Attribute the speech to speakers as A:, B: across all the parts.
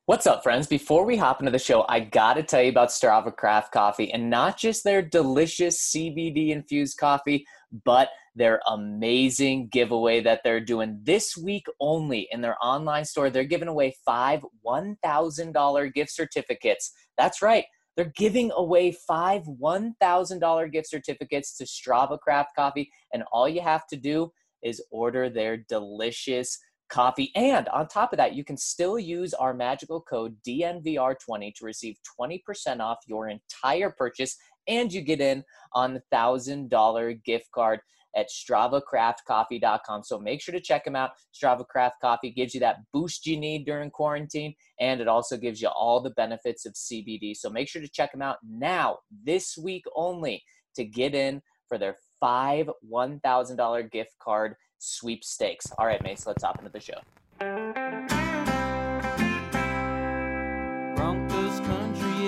A: What's up, friends? Before we hop into the show, I gotta tell you about Strava Craft Coffee, and not just their delicious CBD-infused coffee, but their amazing giveaway that they're doing this week only in their online store. They're giving away 5 $1,000 gift certificates. That's right. They're giving away 5 $1,000 gift certificates to Strava Craft Coffee, and all you have to do is order their delicious coffee. And on top of that, you can still use our magical code DNVR20 to receive 20% off your entire purchase, and you get in on the $1,000 gift card at StravaCraftCoffee.com. So make sure to check them out. Strava Craft Coffee gives you that boost you need during quarantine, and it also gives you all the benefits of CBD. So make sure to check them out now, this week only, to get in for their 5 $1,000 gift card sweepstakes. All right, Mace, let's hop into the show.
B: Broncos country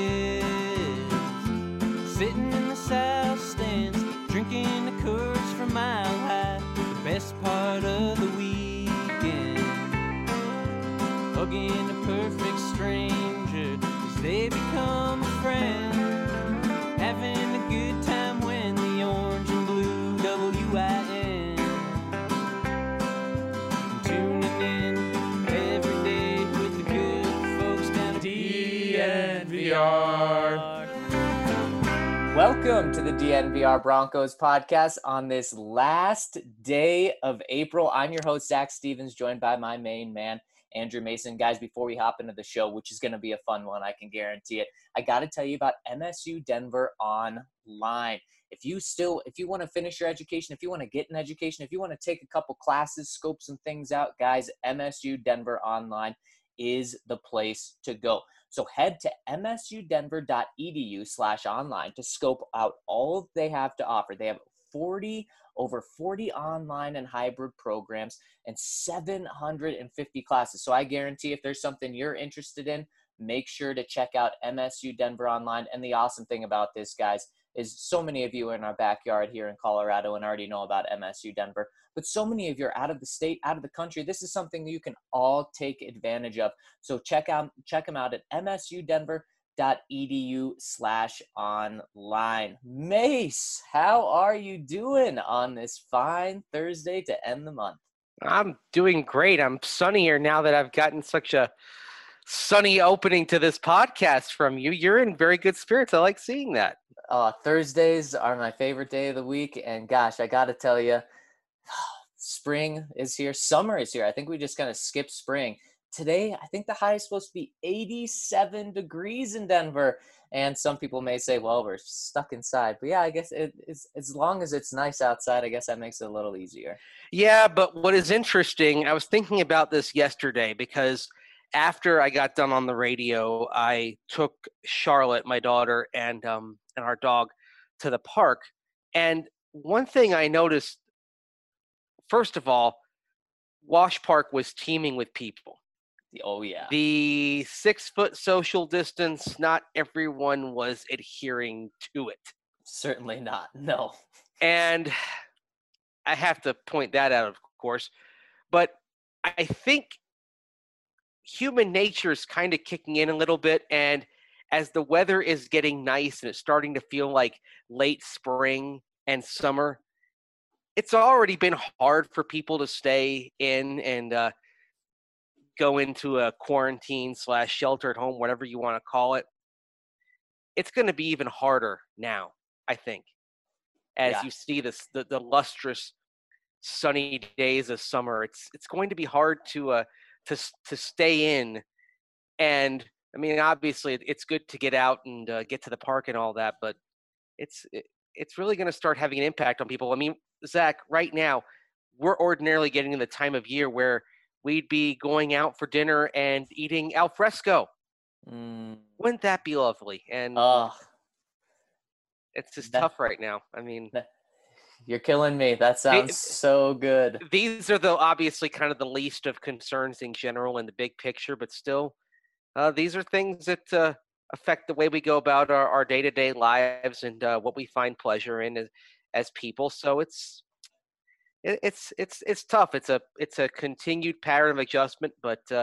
B: is sitting in the south stands, drinking the Coors from Mile High. The best part of the weekend, hugging a perfect stranger as they become a friend, having a good time when the orange and blue WIN.
A: Welcome to the DNVR Broncos podcast on this last day of April. I'm your host, Zach Stevens, joined by my main man, Andrew Mason. Guys, before we hop into the show, which is going to be a fun one, I can guarantee it, I got to tell you about MSU Denver Online. If you want to finish your education, if you want to get an education, if you want to take a couple classes, scope some things out, guys, MSU Denver Online is the place to go. So head to msudenver.edu/online to scope out all they have to offer. They have over 40 online and hybrid programs and 750 classes. So I guarantee if there's something you're interested in, make sure to check out MSU Denver Online. And the awesome thing about this, guys, is so many of you are in our backyard here in Colorado and already know about MSU Denver, but so many of you are out of the state, out of the country. This is something that you can all take advantage of. So check them out at msudenver.edu/online. Mace, how are you doing on this fine Thursday to end the month?
C: I'm doing great. I'm sunnier now that I've gotten such a sunny opening to this podcast from you. You're in very good spirits. I like seeing that.
A: Thursdays are my favorite day of the week, and gosh, I got to tell you, spring is here. Summer is here. I think we just kind of skipped spring. Today, I think the high is supposed to be 87 degrees in Denver, and some people may say, well, we're stuck inside. But yeah, I guess it's as long as it's nice outside, I guess that makes it a little easier.
C: Yeah, but what is interesting, I was thinking about this yesterday because after I got done on the radio, I took Charlotte, my daughter, and our dog to the park. And one thing I noticed, first of all, Wash Park was teeming with people.
A: Oh, yeah.
C: The 6-foot social distance, not everyone was adhering to it.
A: Certainly not, no.
C: And I have to point that out, of course. But I think human nature is kind of kicking in a little bit, and as the weather is getting nice and it's starting to feel like late spring and summer, it's already been hard for people to stay in and go into a quarantine / shelter at home, whatever you want to call it. It's going to be even harder now, I think, as you see the lustrous sunny days of summer. It's going to be hard to stay in. And I mean, obviously it's good to get out and get to the park and all that, but it's really going to start having an impact on people. I mean, Zach, right now we're ordinarily getting in the time of year where we'd be going out for dinner and eating al fresco. Wouldn't that be lovely? And it's just tough right now. I mean,
A: you're killing me. That sounds so good.
C: These are obviously kind of the least of concerns in general in the big picture, but still, these are things that affect the way we go about our day-to-day lives and what we find pleasure in as people. So it's tough. It's a continued pattern of adjustment, but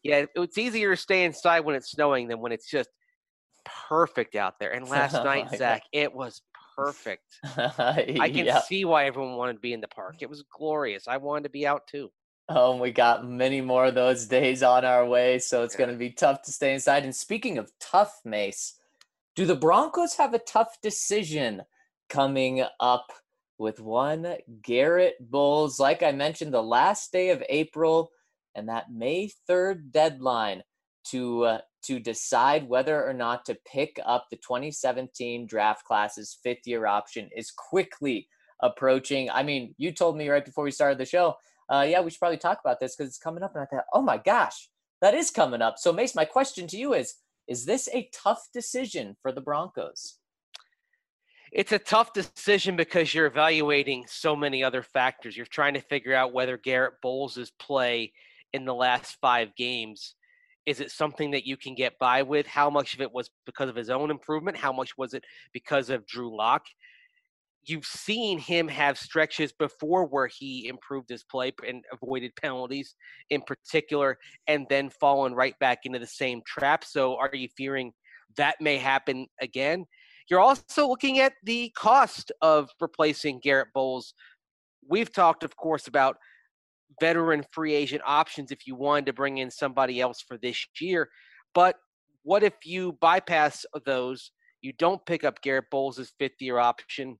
C: Yeah, it's easier to stay inside when it's snowing than when it's just perfect out there. And last night,
A: Yeah.
C: Zach, it was perfect. I can
A: Yeah.
C: see why everyone wanted to be in the park. It was glorious. I wanted to be out too.
A: Oh, and we got many more of those days on our way, so it's
C: Yeah.
A: going to be tough to stay inside. And speaking of tough, Mace, do the Broncos have a tough decision coming up with one Garrett Bowles? Like I mentioned, the last day of April and that May 3rd deadline to decide whether or not to pick up the 2017 draft class's fifth-year option is quickly approaching. I mean, you told me right before we started the show, yeah, we should probably talk about this because it's coming up. And I thought, oh my gosh, that is coming up. So, Mace, my question to you is this a tough decision for the Broncos?
C: It's a tough decision because you're evaluating so many other factors. You're trying to figure out whether Garrett Bowles' play in the last 5 games, is it something that you can get by with? How much of it was because of his own improvement? How much was it because of Drew Lock? You've seen him have stretches before where he improved his play and avoided penalties in particular, and then fallen right back into the same trap. So are you fearing that may happen again? You're also looking at the cost of replacing Garrett Bowles. We've talked, of course, about veteran free agent options if you wanted to bring in somebody else for this year. But what if you bypass those? You don't pick up Garrett Bowles' fifth-year option,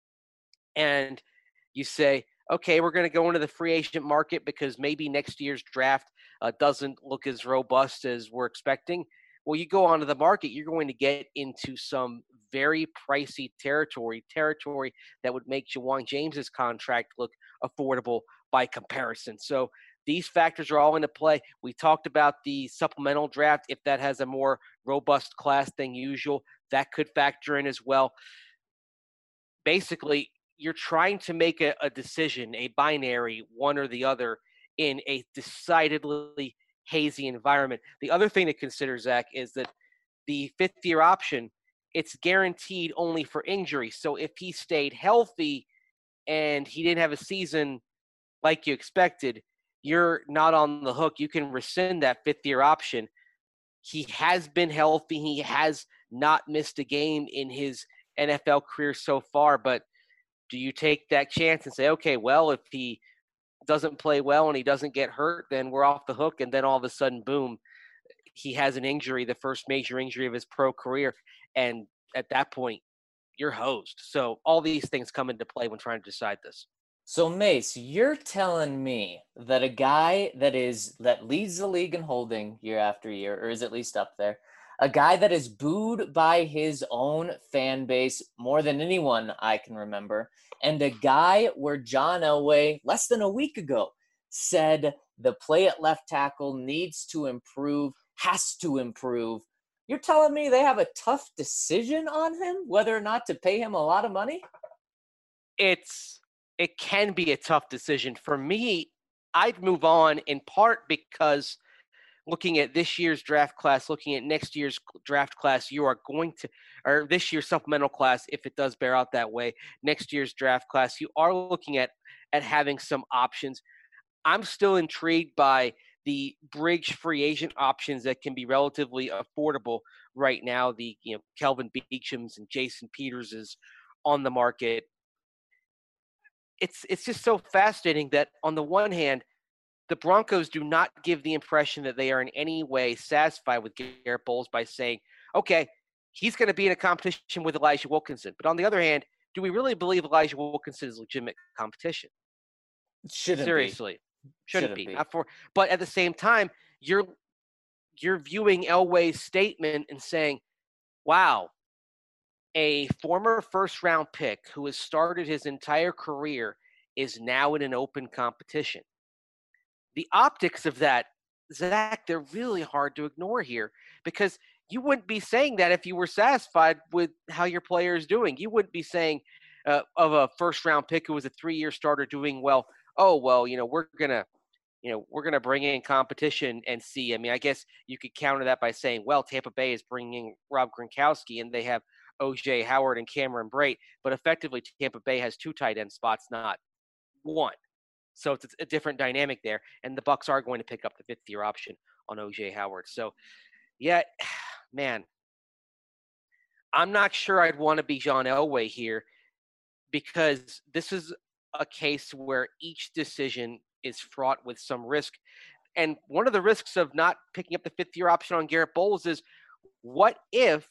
C: and you say, okay, we're going to go into the free agent market because maybe next year's draft doesn't look as robust as we're expecting. Well, you go onto the market, you're going to get into some very pricey territory that would make Jawan James's contract look affordable by comparison. So these factors are all into play. We talked about the supplemental draft. If that has a more robust class than usual, that could factor in as well. Basically, you're trying to make a decision, a binary, one or the other, in a decidedly hazy environment. The other thing to consider, Zach, is that the fifth-year option, it's guaranteed only for injury. So if he stayed healthy and he didn't have a season like you expected, you're not on the hook. You can rescind that fifth-year option. He has been healthy. He has not missed a game in his NFL career so far, but do you take that chance and say, okay, well, if he doesn't play well and he doesn't get hurt, then we're off the hook. And then all of a sudden, boom, he has an injury, the first major injury of his pro career. And at that point, you're hosed. So all these things come into play when trying to decide this.
A: So, Mace, you're telling me that a guy that leads the league in holding year after year, or is at least up there, a guy that is booed by his own fan base more than anyone I can remember, and a guy where John Elway, less than a week ago, said the play at left tackle needs to improve, has to improve. You're telling me they have a tough decision on him, whether or not to pay him a lot of money?
C: It can be a tough decision. For me, I'd move on in part because looking at this year's draft class, looking at next year's draft class, you are going to, or this year's supplemental class, if it does bear out that way, next year's draft class, you are looking at having some options. I'm still intrigued by the bridge free agent options that can be relatively affordable right now. The Kelvin Beachums and Jason Peters is on the market. It's just so fascinating that on the one hand, the Broncos do not give the impression that they are in any way satisfied with Garrett Bowles by saying, okay, he's going to be in a competition with Elijah Wilkinson. But on the other hand, do we really believe Elijah Wilkinson is legitimate competition?
A: Shouldn't
C: Seriously. Shouldn't be.
A: be.
C: Not for, but at the same time, you're viewing Elway's statement and saying, wow, a former first round pick who has started his entire career is now in an open competition. The optics of that, Zach, they're really hard to ignore here because you wouldn't be saying that if you were satisfied with how your player is doing. You wouldn't be saying of a first round pick who was a 3-year starter doing well, oh, well, we're going to bring in competition and see. I mean, I guess you could counter that by saying, well, Tampa Bay is bringing Rob Gronkowski and they have O.J. Howard and Cameron Brate, but effectively Tampa Bay has 2 tight end spots, not 1. So it's a different dynamic there, and the Bucs are going to pick up the fifth-year option OJ Howard. So, yeah, man, I'm not sure I'd want to be John Elway here because this is a case where each decision is fraught with some risk. And one of the risks of not picking up the fifth-year option on Garrett Bowles is what if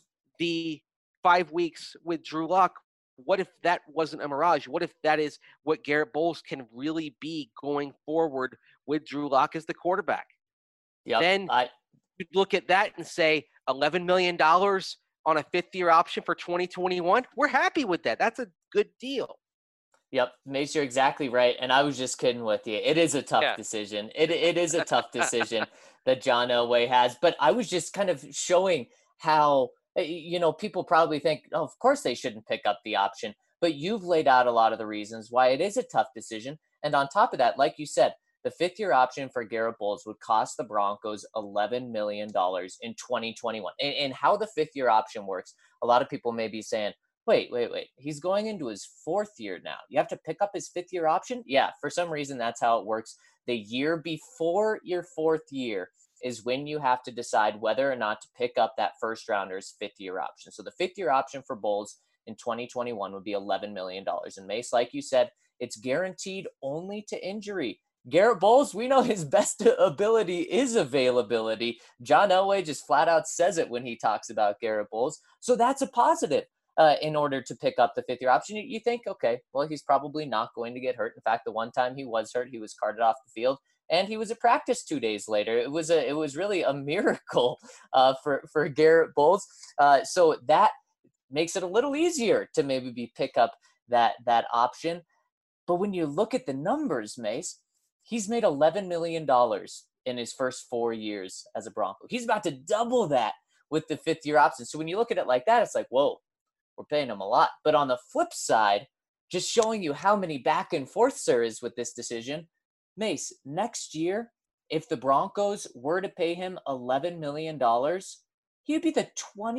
C: the 5 weeks with Drew Lock, what if that wasn't a mirage? What if that is what Garrett Bowles can really be going forward with Drew Lock as the quarterback?
A: Yep.
C: Then you look at that and say $11 million on a fifth-year option for 2021. We're happy with that. That's a good deal.
A: Yep, Mace, you're exactly right. And I was just kidding with you. It is a tough decision. It is a tough decision that John Elway has. But I was just kind of showing how, people probably think, oh, of course they shouldn't pick up the option. But you've laid out a lot of the reasons why it is a tough decision. And on top of that, like you said, the fifth-year option for Garrett Bowles would cost the Broncos $11 million in 2021. And how the fifth-year option works, a lot of people may be saying, wait. He's going into his fourth year now. You have to pick up his fifth year option? Yeah, for some reason, that's how it works. The year before your fourth year is when you have to decide whether or not to pick up that first rounder's fifth year option. So the fifth year option for Bowles in 2021 would be $11 million. And Mace, like you said, it's guaranteed only to injury. Garrett Bowles, we know his best ability is availability. John Elway just flat out says it when he talks about Garrett Bowles. So that's a positive. In order to pick up the fifth year option, you think, okay, well, he's probably not going to get hurt. In fact, the one time he was hurt, he was carted off the field and he was at practice 2 days later. It was really a miracle for Garrett Bowles. So that makes it a little easier to maybe pick up that option. But when you look at the numbers, Mace, he's made $11 million in his first 4 years as a Bronco. He's about to double that with the fifth year option. So when you look at it like that, it's like, whoa, we're paying him a lot. But on the flip side, just showing you how many back and forths there is with this decision, Mace, next year, if the Broncos were to pay him $11 million, he would be the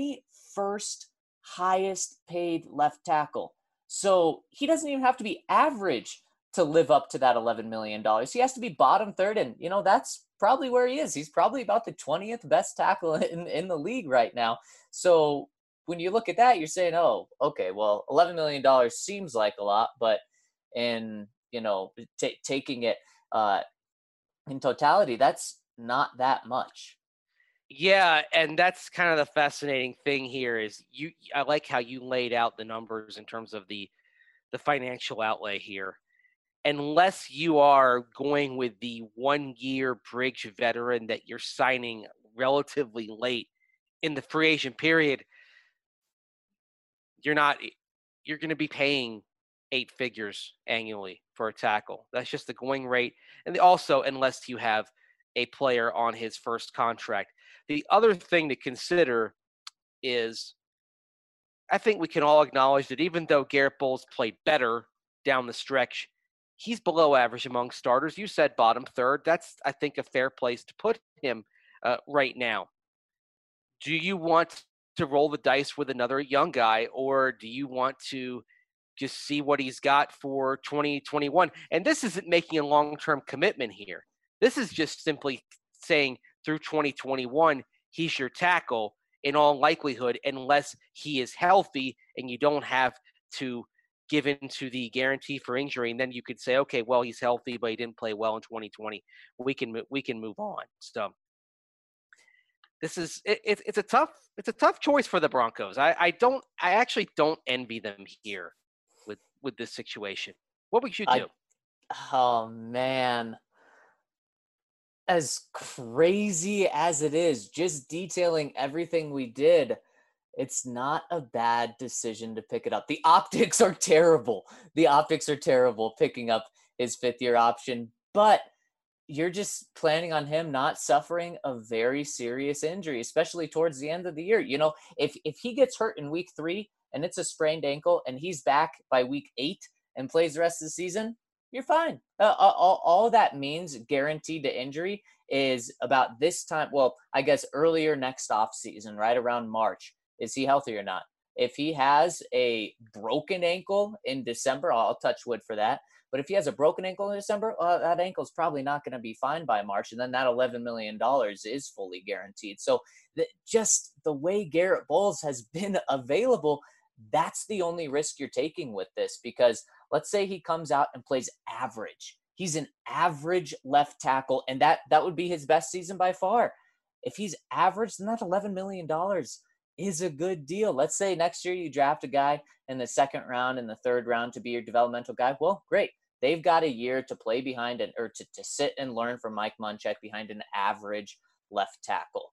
A: 21st highest paid left tackle. So he doesn't even have to be average to live up to that $11 million. He has to be bottom third, and, that's probably where he is. He's probably about the 20th best tackle in the league right now. So when you look at that, you're saying, oh, okay, well, $11 million seems like a lot, but taking it in totality, that's not that much.
C: Yeah, and that's kind of the fascinating thing here is I like how you laid out the numbers in terms of the financial outlay here. Unless you are going with the 1-year bridge veteran that you're signing relatively late in the free agent period, you're going to be paying 8 figures annually for a tackle. That's just the going rate. And also, unless you have a player on his first contract. The other thing to consider is I think we can all acknowledge that even though Garrett Bowles played better down the stretch, he's below average among starters. You said bottom third. That's, I think, a fair place to put him right now. Do you want to roll the dice with another young guy, or do you want to just see what he's got for 2021? And this isn't making a long-term commitment here. This is just simply saying through 2021, he's your tackle in all likelihood, unless he is healthy and you don't have to give into the guarantee for injury. And then you could say, okay, well, he's healthy, but he didn't play well in 2020. We can move on. So it's a tough choice for the Broncos. I actually don't envy them here with this situation. What would you do?
A: Oh man, as crazy as it is, just detailing everything we did, it's not a bad decision to pick it up. The optics are terrible. Picking up his fifth year option, but you're just planning on him not suffering a very serious injury, especially towards the end of the year. If he gets hurt in week 3 and it's a sprained ankle and he's back by week 8 and plays the rest of the season, you're fine. All that means guaranteed to injury is about this time. Well, I guess earlier next off season, right around March. Is he healthy or not? If he has a broken ankle in December, I'll touch wood for that. But if he has a broken ankle in December, that ankle is probably not going to be fine by March. And then that $11 million is fully guaranteed. So just the way Garrett Bowles has been available, that's the only risk you're taking with this. Because let's say he comes out and plays average. He's an average left tackle, and that would be his best season by far. If he's average, then that $11 million is a good deal. Let's say next year you draft a guy in the second round and the third round to be your developmental guy. Well, great. They've got a year to play behind or to sit and learn from Mike Munchak behind an average left tackle.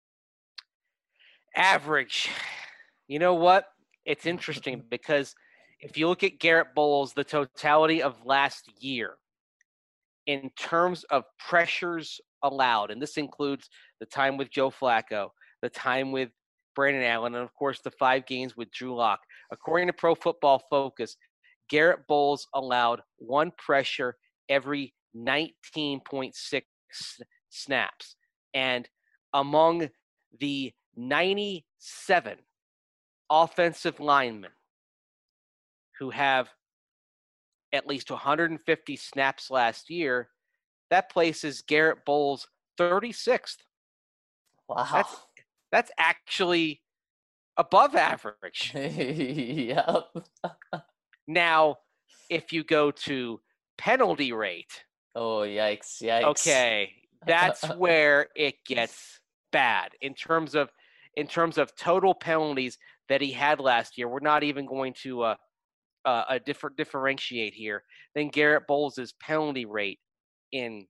C: Average. You know what? It's interesting because if you look at Garrett Bowles, the totality of last year, in terms of pressures allowed, and this includes the time with Joe Flacco, the time with Brandon Allen, and of course the 5 games with Drew Lock. According to Pro Football Focus, Garrett Bowles allowed 1 pressure every 19.6 snaps. And among the 97 offensive linemen who have at least 150 snaps last year, that places Garrett Bowles 36th.
A: Wow.
C: That's actually above average.
A: Yep.
C: Now, if you go to penalty rate.
A: Oh, yikes.
C: Okay, that's where it gets bad in terms of total penalties that he had last year. We're not even going to differentiate here. Then Garrett Bowles' penalty rate in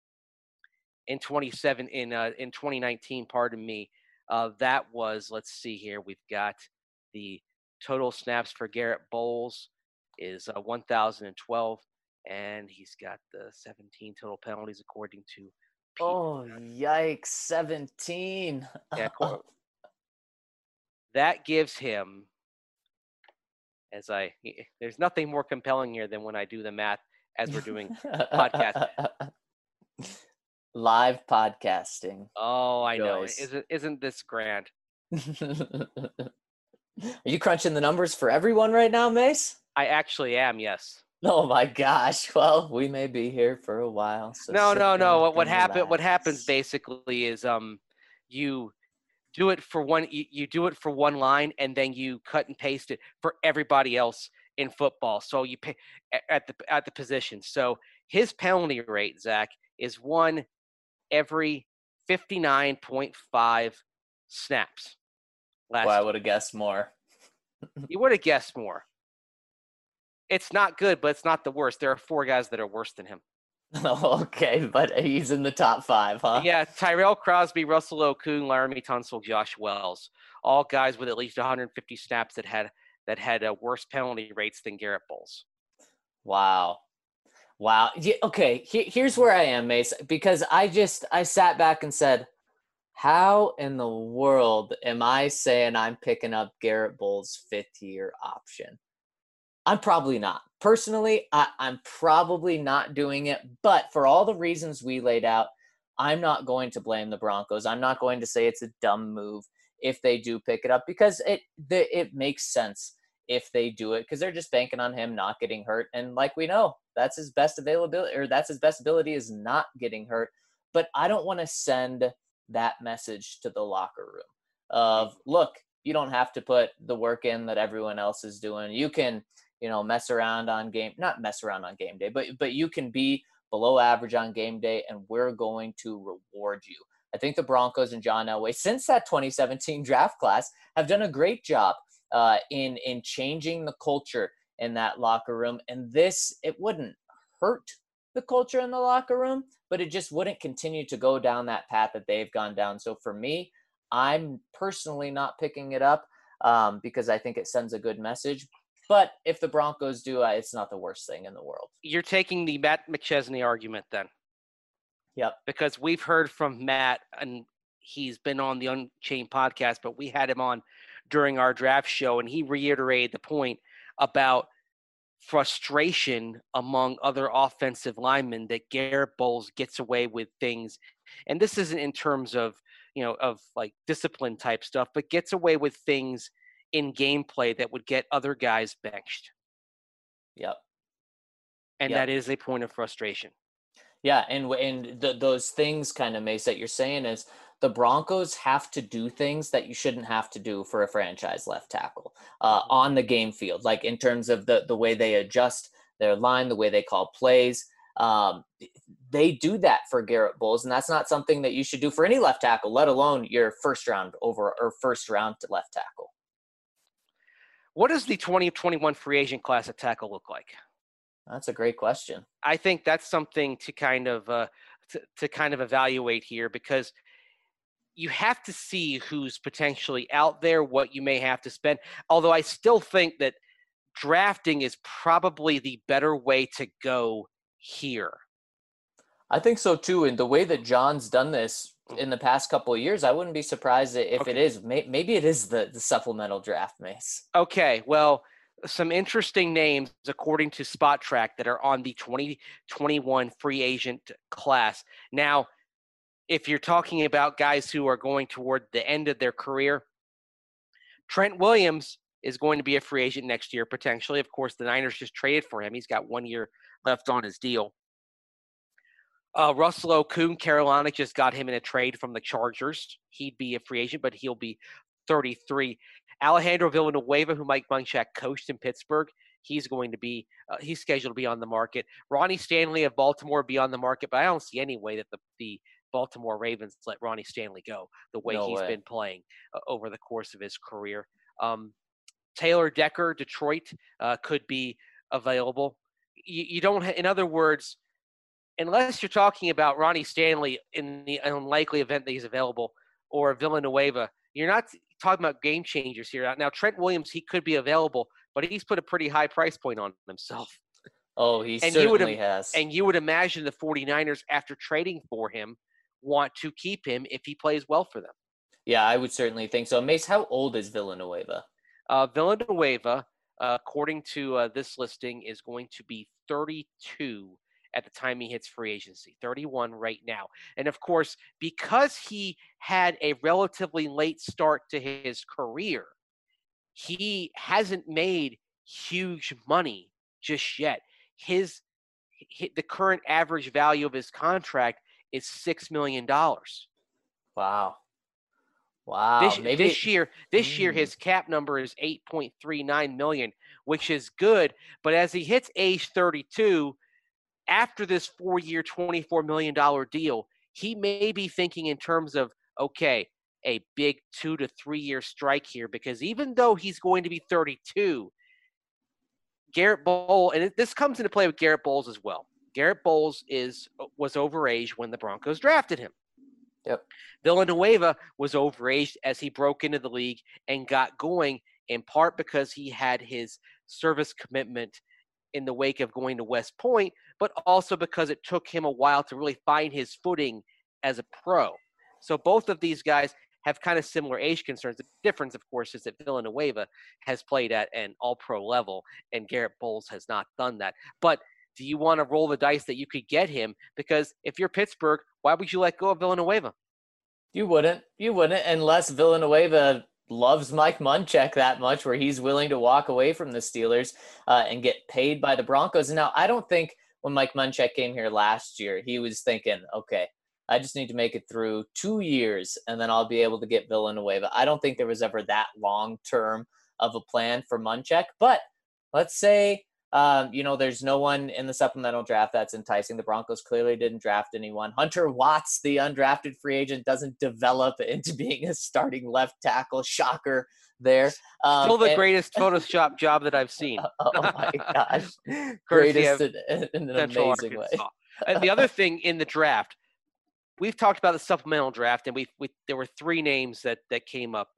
C: 2019, pardon me, that was, let's see here, we've got the total snaps for Garrett Bowles is 1,012, and he's got the 17 total penalties according to Pete.
A: Oh, yikes, 17.
C: Yeah, that gives him, there's nothing more compelling here than when I do the math as we're doing podcast.
A: Live podcasting.
C: Oh, I know. Isn't this grand?
A: Are you crunching the numbers for everyone right now, Mace?
C: I actually am, yes.
A: Oh my gosh. Well, we may be here for a while. So
C: no. What happens basically is you do it for one line and then you cut and paste it for everybody else in football. So you pay at the position. So his penalty rate, Zach, is 1 every 59.5 snaps.
A: I would have guessed more.
C: You would have guessed more. It's not good, but it's not the worst. There are 4 guys that are worse than him.
A: Okay, but he's in the top 5, huh?
C: Yeah, Tyrell Crosby, Russell Okung, Laramie Tunsil, Josh Wells, all guys with at least 150 snaps that had worse penalty rates than Garrett Bowles.
A: Wow. Yeah, okay, here's where I am, Mace, because I sat back and said, how in the world am I saying I'm picking up Garrett Bowles' 5th-year option? I'm probably not. Personally, I'm probably not doing it, but for all the reasons we laid out, I'm not going to blame the Broncos. I'm not going to say it's a dumb move if they do pick it up, because it makes sense if they do it, because they're just banking on him not getting hurt. And like we know, that's his best availability, or that's his best ability, is not getting hurt. But I don't want to send that message to the locker room of, look, you don't have to put the work in that everyone else is doing. You can, not mess around on game day, but you can be below average on game day, and we're going to reward you. I think the Broncos and John Elway, since that 2017 draft class, have done a great job in changing the culture in that locker room. And it wouldn't hurt the culture in the locker room, but it just wouldn't continue to go down that path that they've gone down. So for me, I'm personally not picking it up because I think it sends a good message. But if the Broncos do, it's not the worst thing in the world.
C: You're taking the Matt McChesney argument then.
A: Yep.
C: Because we've heard from Matt, and he's been on the Unchained podcast, but we had him on during our draft show, and he reiterated the point about frustration among other offensive linemen that Garrett Bowles gets away with things. And this isn't in terms of, of like discipline type stuff, but gets away with things in gameplay that would get other guys benched.
A: Yep.
C: And
A: Yep.
C: that is a point of frustration.
A: Yeah, and those things kind of, Mace, that you're saying is the Broncos have to do things that you shouldn't have to do for a franchise left tackle on the game field, like in terms of the way they adjust their line, the way they call plays. They do that for Garrett Bowles, and that's not something that you should do for any left tackle, let alone your first round left tackle.
C: What does the 2021 free agent class at tackle look like?
A: That's a great question.
C: I think that's something to kind of evaluate here, because you have to see who's potentially out there, what you may have to spend. Although I still think that drafting is probably the better way to go here.
A: I think so too. And the way that John's done this in the past couple of years, I wouldn't be surprised if it is. Maybe it is the supplemental draft, Mace.
C: Okay, well, some interesting names according to Spot Track that are on the 2021 free agent class. Now, if you're talking about guys who are going toward the end of their career, Trent Williams is going to be a free agent next year, potentially. Of course, the Niners just traded for him. He's got 1 year left on his deal. Russell Okung, Carolina just got him in a trade from the Chargers. He'd be a free agent, but he'll be 33. Alejandro Villanueva, who Mike Munchak coached in Pittsburgh, he's going to be he's scheduled to be on the market. Ronnie Stanley of Baltimore be on the market, but I don't see any way that the Baltimore Ravens let Ronnie Stanley go the way he's been playing over the course of his career. Taylor Decker, Detroit, could be available. You don't, in other words, unless you're talking about Ronnie Stanley in the unlikely event that he's available, or Villanueva, you're not talking about game changers here. Now, Trent Williams, he could be available, but he's put a pretty high price point on himself.
A: Oh, he certainly has.
C: And you would imagine the 49ers, after trading for him, want to keep him if he plays well for them.
A: Yeah, I would certainly think so. Mace, how old is Villanueva?
C: Villanueva, according to this listing, is going to be 32 at the time he hits free agency, 31 right now. And of course, because he had a relatively late start to his career, he hasn't made huge money just yet. The current average value of his contract is $6 million.
A: Wow.
C: This year, his cap number is $8.39 million, which is good. But as he hits age 32, after this 4-year, $24 million deal, he may be thinking in terms of, okay, a big 2 to 3 year strike here, because even though he's going to be 32, Garrett Bowles, and this comes into play with Garrett Bowles as well. Garrett Bowles was overage when the Broncos drafted him.
A: Yep.
C: Villanueva was overaged as he broke into the league and got going, in part because he had his service commitment in the wake of going to West Point, but also because it took him a while to really find his footing as a pro. So both of these guys have kind of similar age concerns. The difference, of course, is that Villanueva has played at an all-pro level and Garrett Bowles has not done that. But do you want to roll the dice that you could get him? Because if you're Pittsburgh, why would you let go of Villanueva?
A: You wouldn't, unless Villanueva loves Mike Munchak that much where he's willing to walk away from the Steelers and get paid by the Broncos. Now, I don't think when Mike Munchak came here last year, he was thinking, okay, I just need to make it through 2 years and then I'll be able to get Villanueva. I don't think there was ever that long term of a plan for Munchak. But let's say, there's no one in the supplemental draft that's enticing. The Broncos clearly didn't draft anyone. Hunter Watts, the undrafted free agent, doesn't develop into being a starting left tackle. Shocker there.
C: Still the greatest Photoshop job that I've seen.
A: Oh my gosh. Greatest in an amazing way.
C: And the other thing in the draft, we've talked about the supplemental draft, and there were 3 names that came up.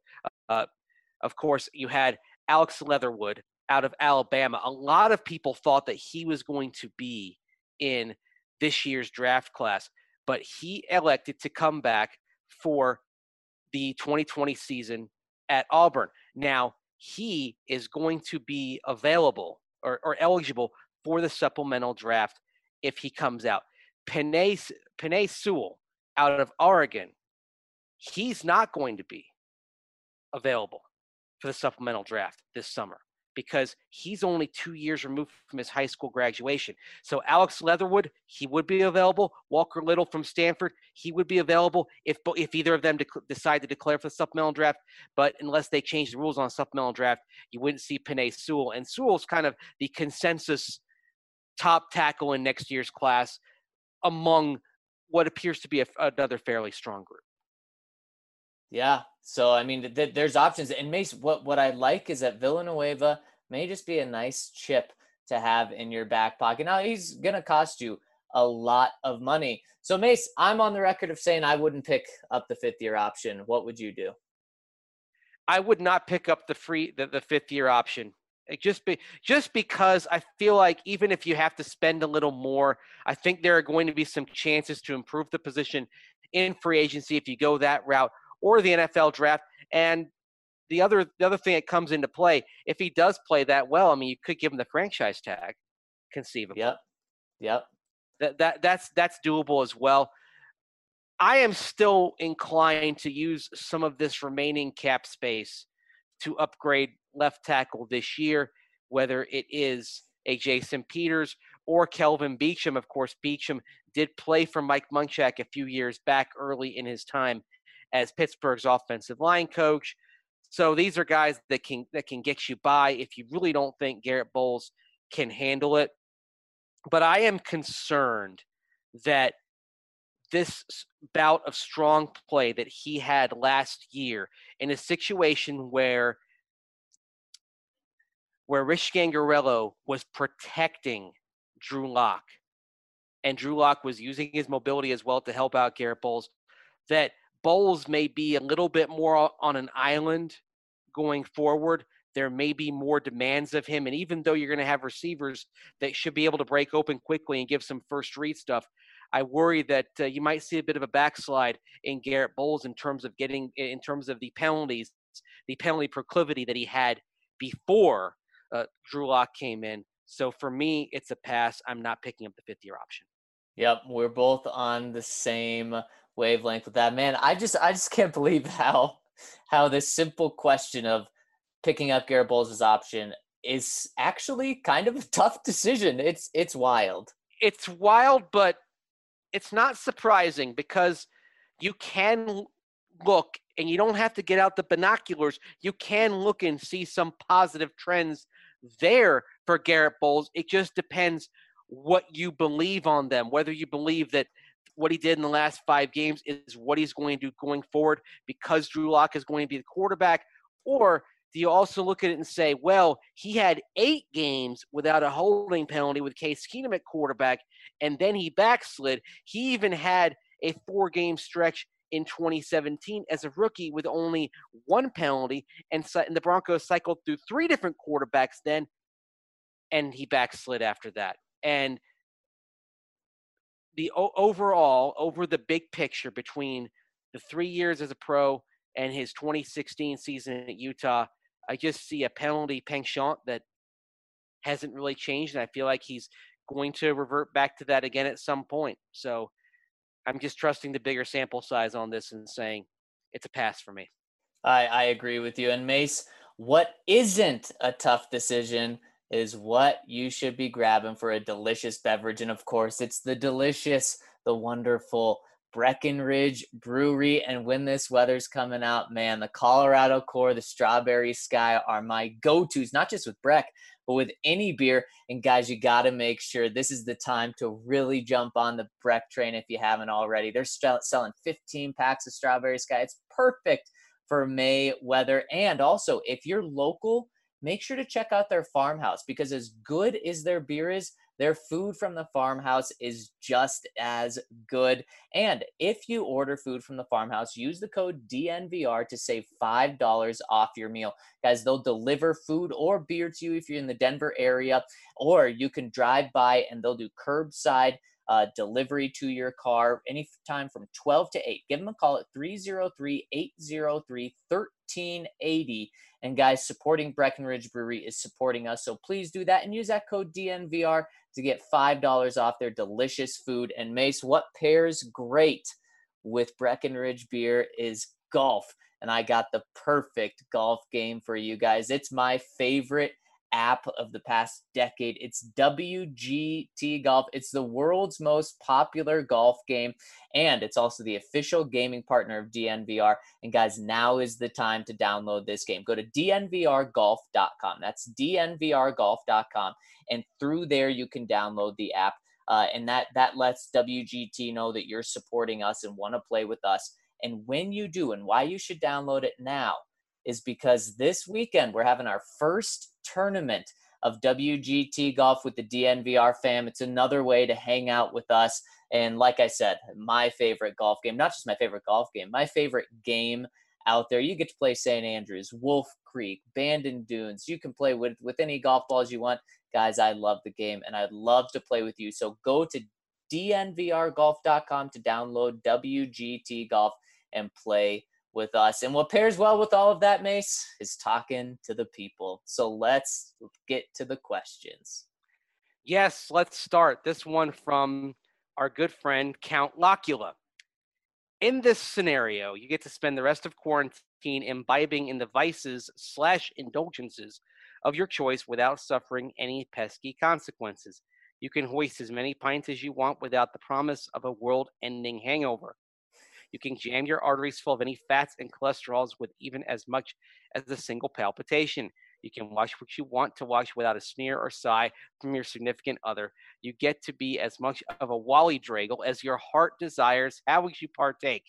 C: Of course, you had Alex Leatherwood out of Alabama. A lot of people thought that he was going to be in this year's draft class, but he elected to come back for the 2020 season at Auburn. Now, he is going to be available or eligible for the supplemental draft if he comes out. Penei Sewell out of Oregon, he's not going to be available for the supplemental draft this summer because he's only 2 years removed from his high school graduation. So Alex Leatherwood, he would be available. Walker Little from Stanford, he would be available if either of them decide to declare for the supplemental draft. But unless they change the rules on supplemental draft, you wouldn't see Penei Sewell. And Sewell's kind of the consensus top tackle in next year's class among what appears to be another fairly strong group.
A: Yeah. So, I mean, there's options. And Mace, what I like is that Villanueva may just be a nice chip to have in your back pocket. Now, he's going to cost you a lot of money. So, Mace, I'm on the record of saying I wouldn't pick up the fifth-year option. What would you do?
C: I would not pick up the fifth-year option. Just because I feel like even if you have to spend a little more, I think there are going to be some chances to improve the position in free agency if you go that route, or the NFL draft. And the other thing that comes into play, if he does play that well, I mean, you could give him the franchise tag, conceivably.
A: Yep.
C: That's doable as well. I am still inclined to use some of this remaining cap space to upgrade left tackle this year, whether it is a Jason Peters or Kelvin Beachum. Of course, Beachum did play for Mike Munchak a few years back early in his time as Pittsburgh's offensive line coach. So these are guys that can get you by if you really don't think Garrett Bowles can handle it. But I am concerned that this bout of strong play that he had last year in a situation where Rich Gangarello was protecting Drew Lock, and Drew Lock was using his mobility as well to help out Garrett Bowles, that Bowles may be a little bit more on an island going forward. There may be more demands of him. And even though you're going to have receivers that should be able to break open quickly and give some first read stuff, I worry that you might see a bit of a backslide in Garrett Bowles in terms of the penalties, the penalty proclivity that he had before Drew Lock came in. So for me, it's a pass. I'm not picking up the fifth-year option.
A: Yep, we're both on the same wavelength with that. Man, I just can't believe how this simple question of picking up Garrett Bowles' option is actually kind of a tough decision. It's wild.
C: It's wild, but it's not surprising because you can look, and you don't have to get out the binoculars. You can look and see some positive trends there for Garrett Bowles. It just depends what you believe on them, whether you believe that what he did in the last 5 games is what he's going to do going forward because Drew Lock is going to be the quarterback, or do you also look at it and say, well, he had 8 games without a holding penalty with Case Keenum at quarterback, and then he backslid. He even had a 4-game stretch in 2017 as a rookie with only 1 penalty, and the Broncos cycled through 3 different quarterbacks then, and he backslid after that. And the overall, over the big picture between the 3 years as a pro and his 2016 season at Utah, I just see a penalty penchant that hasn't really changed, and I feel like he's going to revert back to that again at some point. So I'm just trusting the bigger sample size on this and saying it's a pass for me.
A: I agree with you. And Mace, what isn't a tough decision is what you should be grabbing for a delicious beverage. And of course, it's the delicious, the wonderful Breckenridge Brewery. And when this weather's coming out, man, the Colorado Core, the Strawberry Sky are my go-tos, not just with Breck, but with any beer. And guys, you got to make sure this is the time to really jump on the Breck train if you haven't already. They're selling 15 packs of Strawberry Sky. It's perfect for May weather. And also, if you're local, make sure to check out their farmhouse, because as good as their beer is, their food from the farmhouse is just as good. And if you order food from the farmhouse, use the code DNVR to save $5 off your meal. Guys, they'll deliver food or beer to you if you're in the Denver area, or you can drive by and they'll do curbside delivery to your car anytime from 12 to 8. Give them a call at 303-803-1380. And guys, supporting Breckenridge Brewery is supporting us. So please do that and use that code DNVR to get $5 off their delicious food. And Mace, what pairs great with Breckenridge beer is golf. and I got the perfect golf game for you guys. It's my favorite app of the past decade. It's WGT Golf. It's the world's most popular golf game, and it's also the official gaming partner of DNVR. And guys, now is the time to download this game. Go to dnvrgolf.com. That's dnvrgolf.com, and through there you can download the app. And that lets WGT know that you're supporting us and want to play with us. And when you do, and why you should download it now, is because this weekend we're having our first tournament of WGT Golf with the DNVR fam. It's another way to hang out with us. And like I said, my favorite golf game, not just my favorite golf game, my favorite game out there. You get to play St. Andrews, Wolf Creek, Bandon Dunes. You can play with any golf balls you want. Guys, I love the game, and I'd love to play with you. So go to dnvrgolf.com to download WGT Golf and play with us. And what pairs well with all of that, Mace, is talking to the people. So let's get to the questions.
C: Yes, let's start. This one from our good friend, Count Locula. In this scenario, you get to spend the rest of quarantine imbibing in the vices/indulgences of your choice without suffering any pesky consequences. You can hoist as many pints as you want without the promise of a world-ending hangover. You can jam your arteries full of any fats and cholesterols with even as much as a single palpitation. You can watch what you want to watch without a sneer or sigh from your significant other. You get to be as much of a Wally Draggle as your heart desires. How would you partake?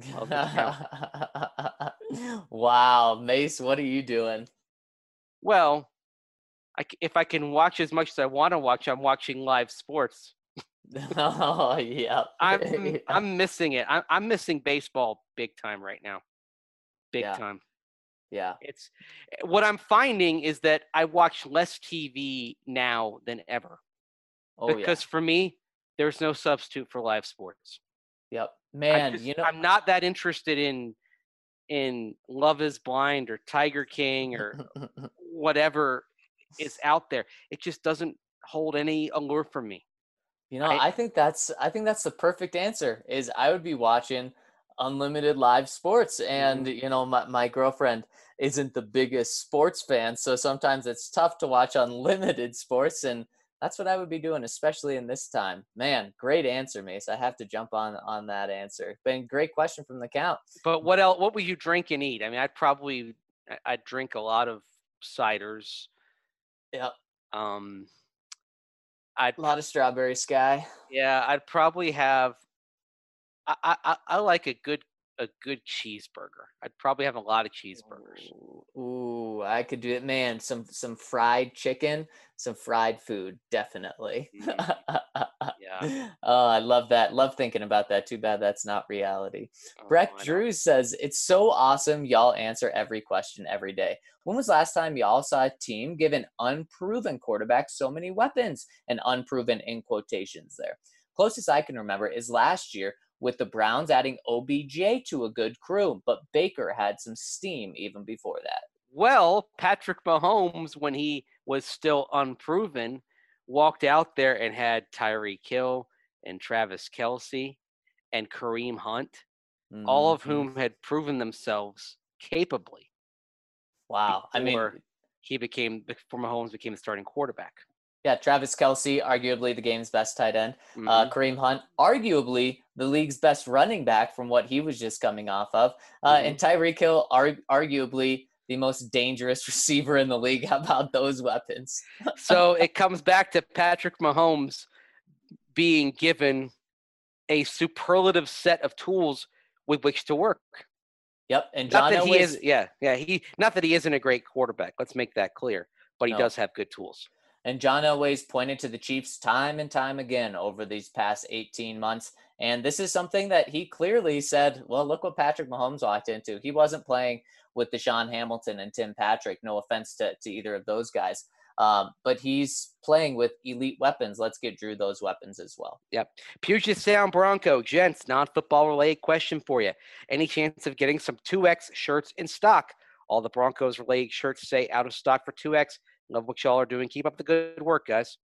A: Wow, Mace, what are you doing?
C: Well, if I can watch as much as I want to watch, I'm watching live sports.
A: Oh, yeah.
C: I'm missing it. I'm missing baseball big time right now. Big time.
A: Yeah.
C: It's what I'm finding is that I watch less TV now than ever. Because for me, there's no substitute for live sports.
A: Yep. Man,
C: I'm not that interested in Love is Blind or Tiger King or whatever is out there. It just doesn't hold any allure for me.
A: I think that's the perfect answer. Is I would be watching unlimited live sports, and my girlfriend isn't the biggest sports fan, so sometimes it's tough to watch unlimited sports, and that's what I would be doing, especially in this time. Man, great answer, Mace. I have to jump on that answer. Been great question from the Count.
C: But what else? What would you drink and eat? I mean, I'd drink a lot of ciders.
A: Yep.
C: A
A: lot of Strawberry Sky.
C: Yeah, I'd probably have. I like a good cheeseburger. I'd probably have a lot of cheeseburgers.
A: Ooh, I could do it, man. Some fried chicken, some fried food, definitely.
C: Yeah.
A: Oh, I love that. Love thinking about that. Too bad that's not reality. Breck Drews says, it's so awesome y'all answer every question every day. When was the last time y'all saw a team give an unproven quarterback so many weapons? And unproven in quotations there. Closest I can remember is last year with the Browns adding OBJ to a good crew, but Baker had some steam even before that.
C: Well, Patrick Mahomes, when he was still unproven, walked out there and had Tyreek Hill and Travis Kelce and Kareem Hunt, all of whom had proven themselves capably.
A: Wow.
C: Before Mahomes became the starting quarterback.
A: Yeah, Travis Kelce, arguably the game's best tight end. Kareem Hunt, arguably the league's best running back from what he was just coming off of. And Tyreek Hill, arguably the most dangerous receiver in the league. How about those weapons?
C: So it comes back to Patrick Mahomes being given a superlative set of tools with which to work.
A: Yep, and John
C: not that he isn't a great quarterback. Let's make that clear. But he does have good tools.
A: And John Elway's pointed to the Chiefs time and time again over these past 18 months. And this is something that he clearly said, well, look what Patrick Mahomes walked into. He wasn't playing with Deshaun Hamilton and Tim Patrick. No offense to either of those guys. But he's playing with elite weapons. Let's get Drew those weapons as well.
C: Yep. Puget Sound Bronco, gents, non-football related question for you. Any chance of getting some 2X shirts in stock? All the Broncos related shirts say out of stock for 2X. Love what y'all are doing. Keep up the good work, guys.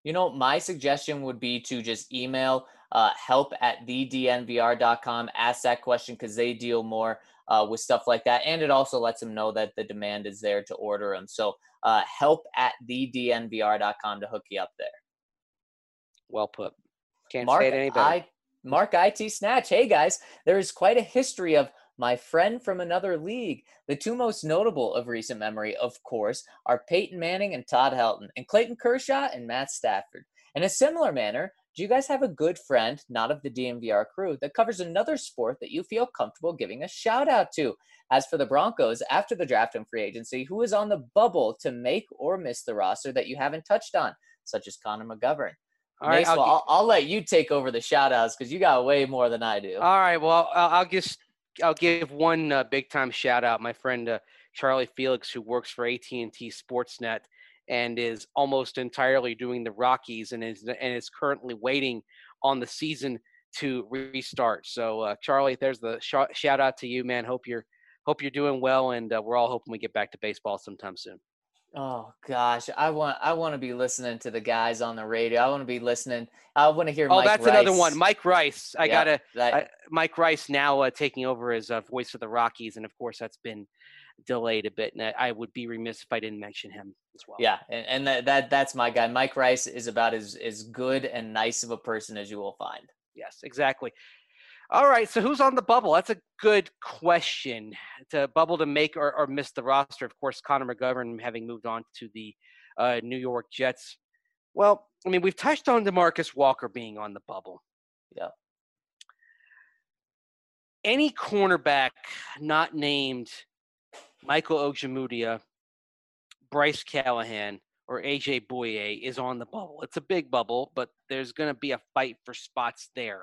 A: My suggestion would be to just email help@thednvr.com, ask that question because they deal more with stuff like that. And it also lets them know that the demand is there to order them. So help@thednvr.com to hook you up there.
C: Well put. Can't
A: Mark,
C: say it any better.
A: Mark IT Snatch. Hey guys, there is quite a history of my friend from another league. The two most notable of recent memory, of course, are Peyton Manning and Todd Helton, and Clayton Kershaw and Matt Stafford. In a similar manner, do you guys have a good friend, not of the DNVR crew, that covers another sport that you feel comfortable giving a shout out to? As for the Broncos, after the draft and free agency, who is on the bubble to make or miss the roster that you haven't touched on, such as Connor McGovern?
C: All right,
A: Mace, I'll let you take over the shout outs because you got way more than I do.
C: All right, well, I'll give one big time shout out. My friend Charlie Felix, who works for AT&T Sportsnet and is almost entirely doing the Rockies and is currently waiting on the season to restart. So Charlie, there's the shout out to you, man. Hope you're doing well, and we're all hoping we get back to baseball sometime soon.
A: Oh gosh, I want to be listening to the guys on the radio. I want to be listening. I want to hear.
C: Oh,
A: Mike
C: that's
A: Rice.
C: another one, Mike Rice.
A: Yep,
C: Mike Rice now taking over as voice of the Rockies, and of course that's been delayed a bit. And I would be remiss if I didn't mention him as well.
A: Yeah, and that's my guy. Mike Rice is about as good and nice of a person as you will find.
C: Yes, exactly. All right, so who's on the bubble? That's a good question. To bubble to make or miss the roster, of course, Connor McGovern having moved on to the New York Jets. Well, I mean, we've touched on DeMarcus Walker being on the bubble.
A: Yeah.
C: Any cornerback not named Michael Ojemudia, Bryce Callahan, or A.J. Bouye is on the bubble. It's a big bubble, but there's going to be a fight for spots there.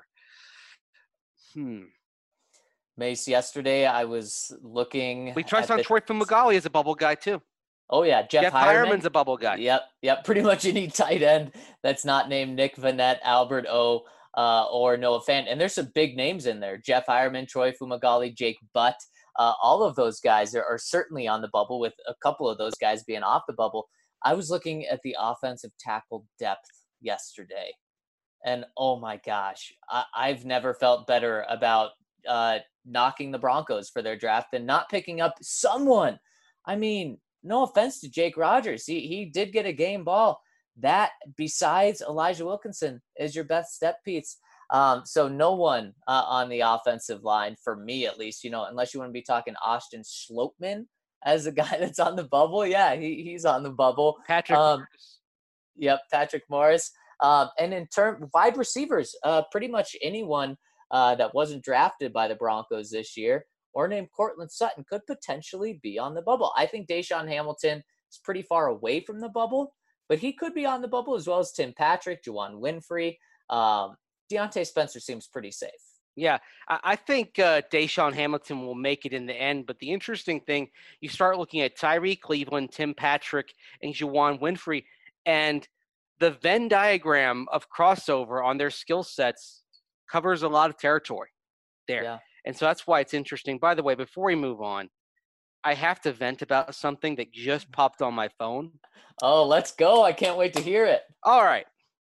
A: Mace, yesterday I was looking.
C: We touched on Troy Fumagalli as a bubble guy too.
A: Oh yeah, Jeff
C: Hireman's a bubble guy.
A: Yep. Pretty much any tight end that's not named Nick Vannett, Albert O, or Noah Fant. And there's some big names in there: Jeff Hireman, Troy Fumagalli, Jake Butt. All of those guys are certainly on the bubble, with a couple of those guys being off the bubble. I was looking at the offensive tackle depth yesterday. And oh my gosh, I've never felt better about knocking the Broncos for their draft than not picking up someone. I mean, no offense to Jake Rogers. He did get a game ball. That, besides Elijah Wilkinson, is your best step piece. So no one on the offensive line, for me at least, unless you want to be talking Austin Schlottman as a guy that's on the bubble. Yeah, he's on the bubble.
C: Patrick Morris.
A: Yep, Patrick Morris. And in wide receivers, pretty much anyone that wasn't drafted by the Broncos this year or named Courtland Sutton could potentially be on the bubble. I think Deshaun Hamilton is pretty far away from the bubble, but he could be on the bubble, as well as Tim Patrick, Juwan Winfrey. Deontay Spencer seems pretty safe.
C: Yeah, I think Deshaun Hamilton will make it in the end. But the interesting thing, you start looking at Tyree Cleveland, Tim Patrick, and Juwan Winfrey, and the Venn diagram of crossover on their skill sets covers a lot of territory there.
A: Yeah.
C: And so that's why it's interesting. By the way, before we move on, I have to vent about something that just popped on my phone.
A: Oh, let's go. I can't wait to hear it.
C: All right.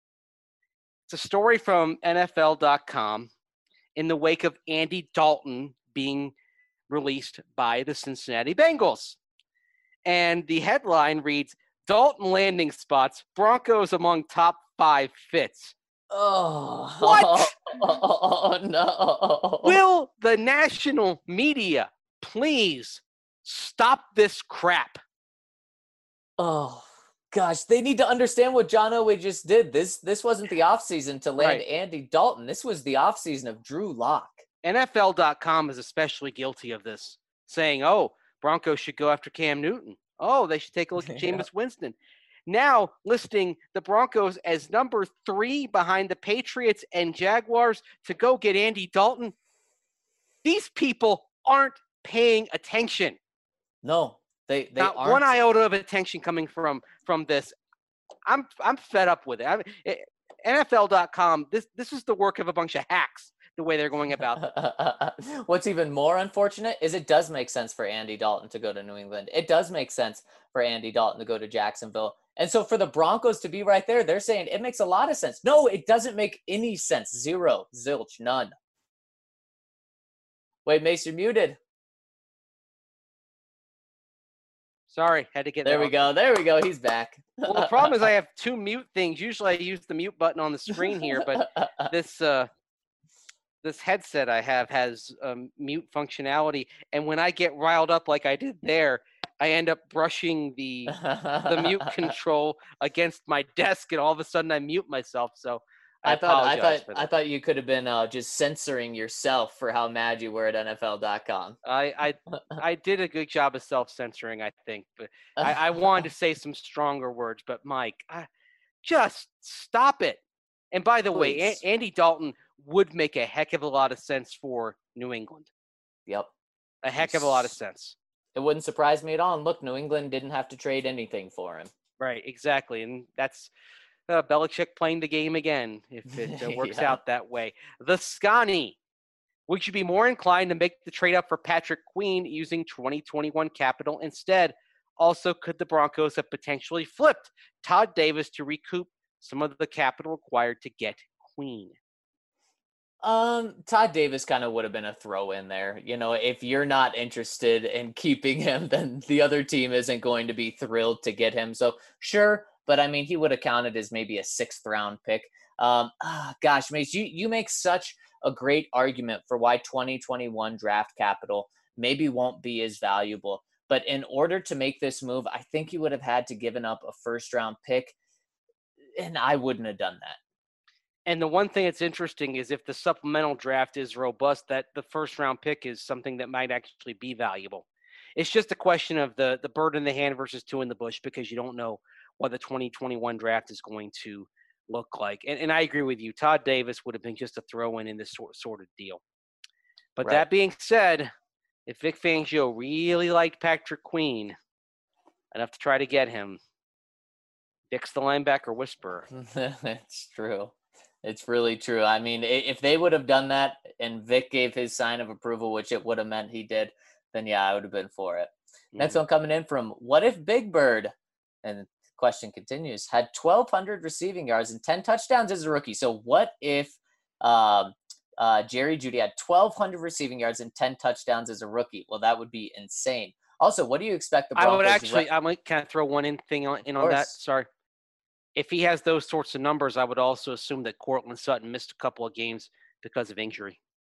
C: It's a story from NFL.com in the wake of Andy Dalton being released by the Cincinnati Bengals. And the headline reads, Dalton landing spots, Broncos among top 5 fits.
A: Oh.
C: What?
A: Oh, no.
C: Will the national media please stop this crap?
A: Oh, gosh. They need to understand what John Elway just did. This wasn't the offseason to land Andy Dalton. This was the offseason of Drew Lock.
C: NFL.com is especially guilty of this, saying, Broncos should go after Cam Newton. They should take a look at Jameis Winston. Now listing the Broncos as number 3 behind the Patriots and Jaguars to go get Andy Dalton. These people aren't paying attention.
A: No, they
C: not
A: aren't.
C: One iota of attention coming from this. I'm fed up with it. NFL.com. This is the work of a bunch of hacks. the way they're going about.
A: What's even more unfortunate is it does make sense for Andy Dalton to go to New England. It does make sense for Andy Dalton to go to Jacksonville. And so for the Broncos to be right there, they're saying it makes a lot of sense. No, it doesn't make any sense. Zero, zilch, none. Wait, Mace, you're muted.
C: Sorry, had to get
A: There
C: that
A: we
C: off.
A: go. There we go. He's back.
C: Well, the problem is I have two mute things. Usually I use the mute button on the screen here, but this headset I have has mute functionality, and when I get riled up like I did there, I end up brushing the mute control against my desk, and all of a sudden I mute myself. So I apologize for that.
A: I thought you could have been just censoring yourself for how mad you were at NFL.com.
C: I did a good job of self-censoring, I think, but I wanted to say some stronger words. But Mike, just stop it. And by the way,
A: Please.
C: Andy Dalton would make a heck of a lot of sense for New England.
A: Yep.
C: A heck of a lot of sense.
A: It wouldn't surprise me at all. And look, New England didn't have to trade anything for him.
C: Right, exactly. And that's Belichick playing the game again, if it works out that way. The Scotty. Would you be more inclined to make the trade up for Patrick Queen using 2021 capital instead? Also, could the Broncos have potentially flipped Todd Davis to recoup some of the capital required to get Queen?
A: Todd Davis kind of would have been a throw in there. You know, if you're not interested in keeping him, then the other team isn't going to be thrilled to get him. So sure, but I mean, he would have counted as maybe a 6th round pick. Gosh, Mace, you make such a great argument for why 2021 draft capital maybe won't be as valuable. But in order to make this move, I think you would have had to given up a 1st round pick, and I wouldn't have done that.
C: And the one thing that's interesting is if the supplemental draft is robust, that the 1st round pick is something that might actually be valuable. It's just a question of the bird in the hand versus 2 in the bush, because you don't know what the 2021 draft is going to look like. And I agree with you. Todd Davis would have been just a throw-in this sort of deal. But That being said, if Vic Fangio really liked Patrick Queen enough to try to get him, Vic's the linebacker whisperer.
A: It's true. It's really true. I mean, if they would have done that and Vic gave his sign of approval, which it would have meant he did, then yeah, I would have been for it. Mm-hmm. Next one coming in from What If Big Bird? And the question continues, had 1,200 receiving yards and 10 touchdowns as a rookie. So what if Jerry Jeudy had 1,200 receiving yards and 10 touchdowns as a rookie? Well, that would be insane. Also, what do you expect the Broncos?
C: I would actually, I might kind of throw one in on that. Sorry. If he has those sorts of numbers, I would also assume that Courtland Sutton missed a couple of games because of injury.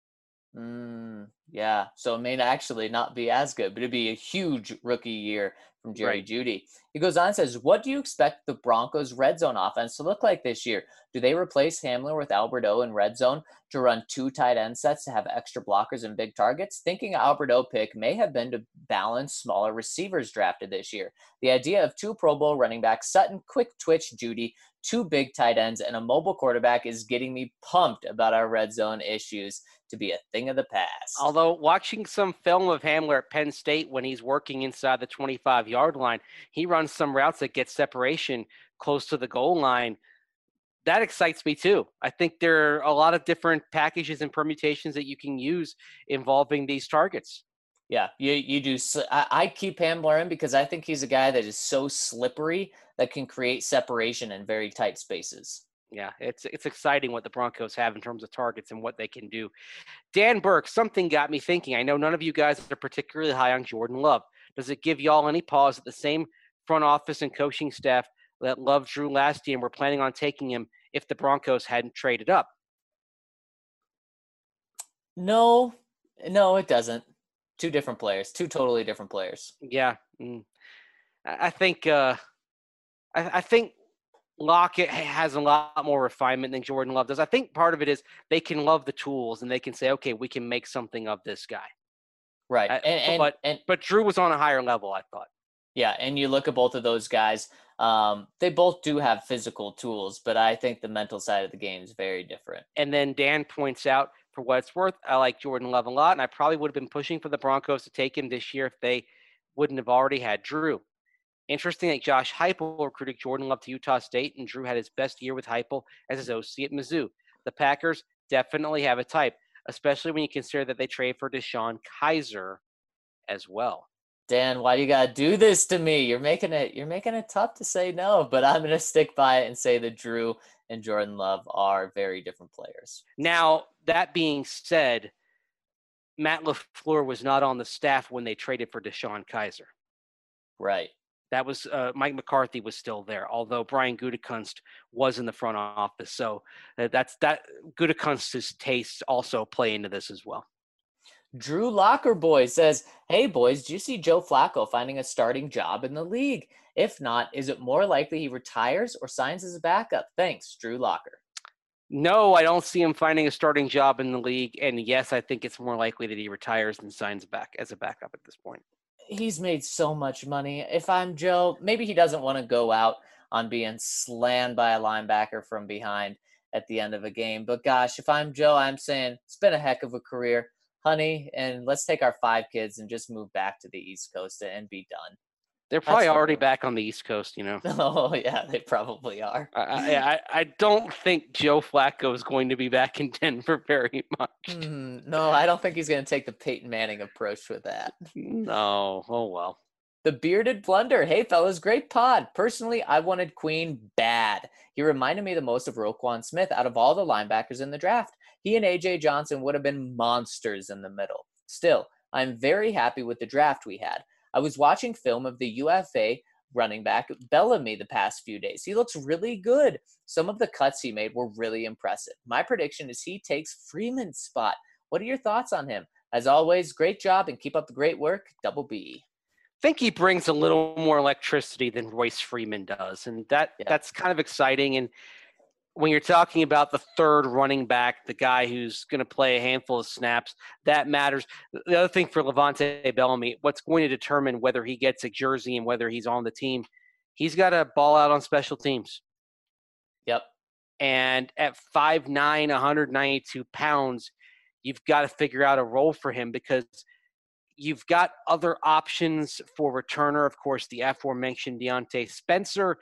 A: Yeah, so it may actually not be as good, but it'd be a huge rookie year from Jerry Jeudy. He goes on and says, what do you expect the Broncos' red zone offense to look like this year? Do they replace Hamler with Albert O in red zone to run 2 tight end sets to have extra blockers and big targets? Thinking Albert O pick may have been to balance smaller receivers drafted this year. The idea of 2 Pro Bowl running backs, Sutton, quick twitch Jeudy, 2 big tight ends, and a mobile quarterback is getting me pumped about our red zone issues to be a thing of the past.
C: Although watching some film of Hamler at Penn State when he's working inside the 25-yard line, he runs some routes that get separation close to the goal line. That excites me too. I think there are a lot of different packages and permutations that you can use involving these targets.
A: Yeah, you do. I keep Hamler in because I think he's a guy that is so slippery that can create separation in very tight spaces.
C: Yeah, it's exciting what the Broncos have in terms of targets and what they can do. Dan Burke, something got me thinking. I know none of you guys are particularly high on Jordan Love. Does it give y'all any pause that the same front office and coaching staff that Love drew last year and were planning on taking him if the Broncos hadn't traded up?
A: No, it doesn't. 2 different players, 2 totally different players.
C: Yeah, I think Lockett has a lot more refinement than Jordan Love does. I think part of it is they can love the tools and they can say, okay, we can make something of this guy.
A: Right.
C: But Drew was on a higher level, I thought.
A: Yeah, and you look at both of those guys, they both do have physical tools, but I think the mental side of the game is very different.
C: And then Dan points out, for what it's worth, I like Jordan Love a lot, and I probably would have been pushing for the Broncos to take him this year if they wouldn't have already had Drew. Interesting that Josh Heupel recruited Jordan Love to Utah State, and Drew had his best year with Heupel as his OC at Mizzou. The Packers definitely have a type. especially when you consider that they trade for DeShone Kizer as well.
A: Dan, why you gotta do this to me? You're making it tough to say no, but I'm gonna stick by it and say that Drew and Jordan Love are very different players.
C: Now, that being said, Matt LaFleur was not on the staff when they traded for DeShone Kizer.
A: Right.
C: That was Mike McCarthy was still there, although Brian Gutekunst was in the front office. So that's Gutekunst's tastes also play into this as well.
A: Drew Locker Boy says, "Hey boys, do you see Joe Flacco finding a starting job in the league? If not, is it more likely he retires or signs as a backup? Thanks, Drew Locker."
C: No, I don't see him finding a starting job in the league. And yes, I think it's more likely that he retires than signs back as a backup at this point.
A: He's made so much money. If I'm Joe, maybe he doesn't want to go out on being slammed by a linebacker from behind at the end of a game. But gosh, if I'm Joe, I'm saying it's been a heck of a career, honey, and let's take our 5 kids and just move back to the East Coast and be done.
C: They're probably already back on the East Coast, you know.
A: Oh, yeah, they probably are.
C: I don't think Joe Flacco is going to be back in Denver very much.
A: No, I don't think he's going to take the Peyton Manning approach with that.
C: No. Oh, well.
A: The Bearded Blunder. Hey, fellas, great pod. Personally, I wanted Queen bad. He reminded me the most of Roquan Smith out of all the linebackers in the draft. He and A.J. Johnson would have been monsters in the middle. Still, I'm very happy with the draft we had. I was watching film of the UFA running back Bellamy the past few days. He looks really good. Some of the cuts he made were really impressive. My prediction is he takes Freeman's spot. What are your thoughts on him? As always, great job and keep up the great work. Double B.
C: I think he brings a little more electricity than Royce Freeman does, and that's kind of exciting. And when you're talking about the third running back, the guy who's going to play a handful of snaps, that matters. The other thing for Levante Bellamy, what's going to determine whether he gets a jersey and whether he's on the team, he's got to ball out on special teams.
A: Yep.
C: And at 5'9", 192 pounds, you've got to figure out a role for him because you've got other options for returner. Of course, the aforementioned Deontay Spencer.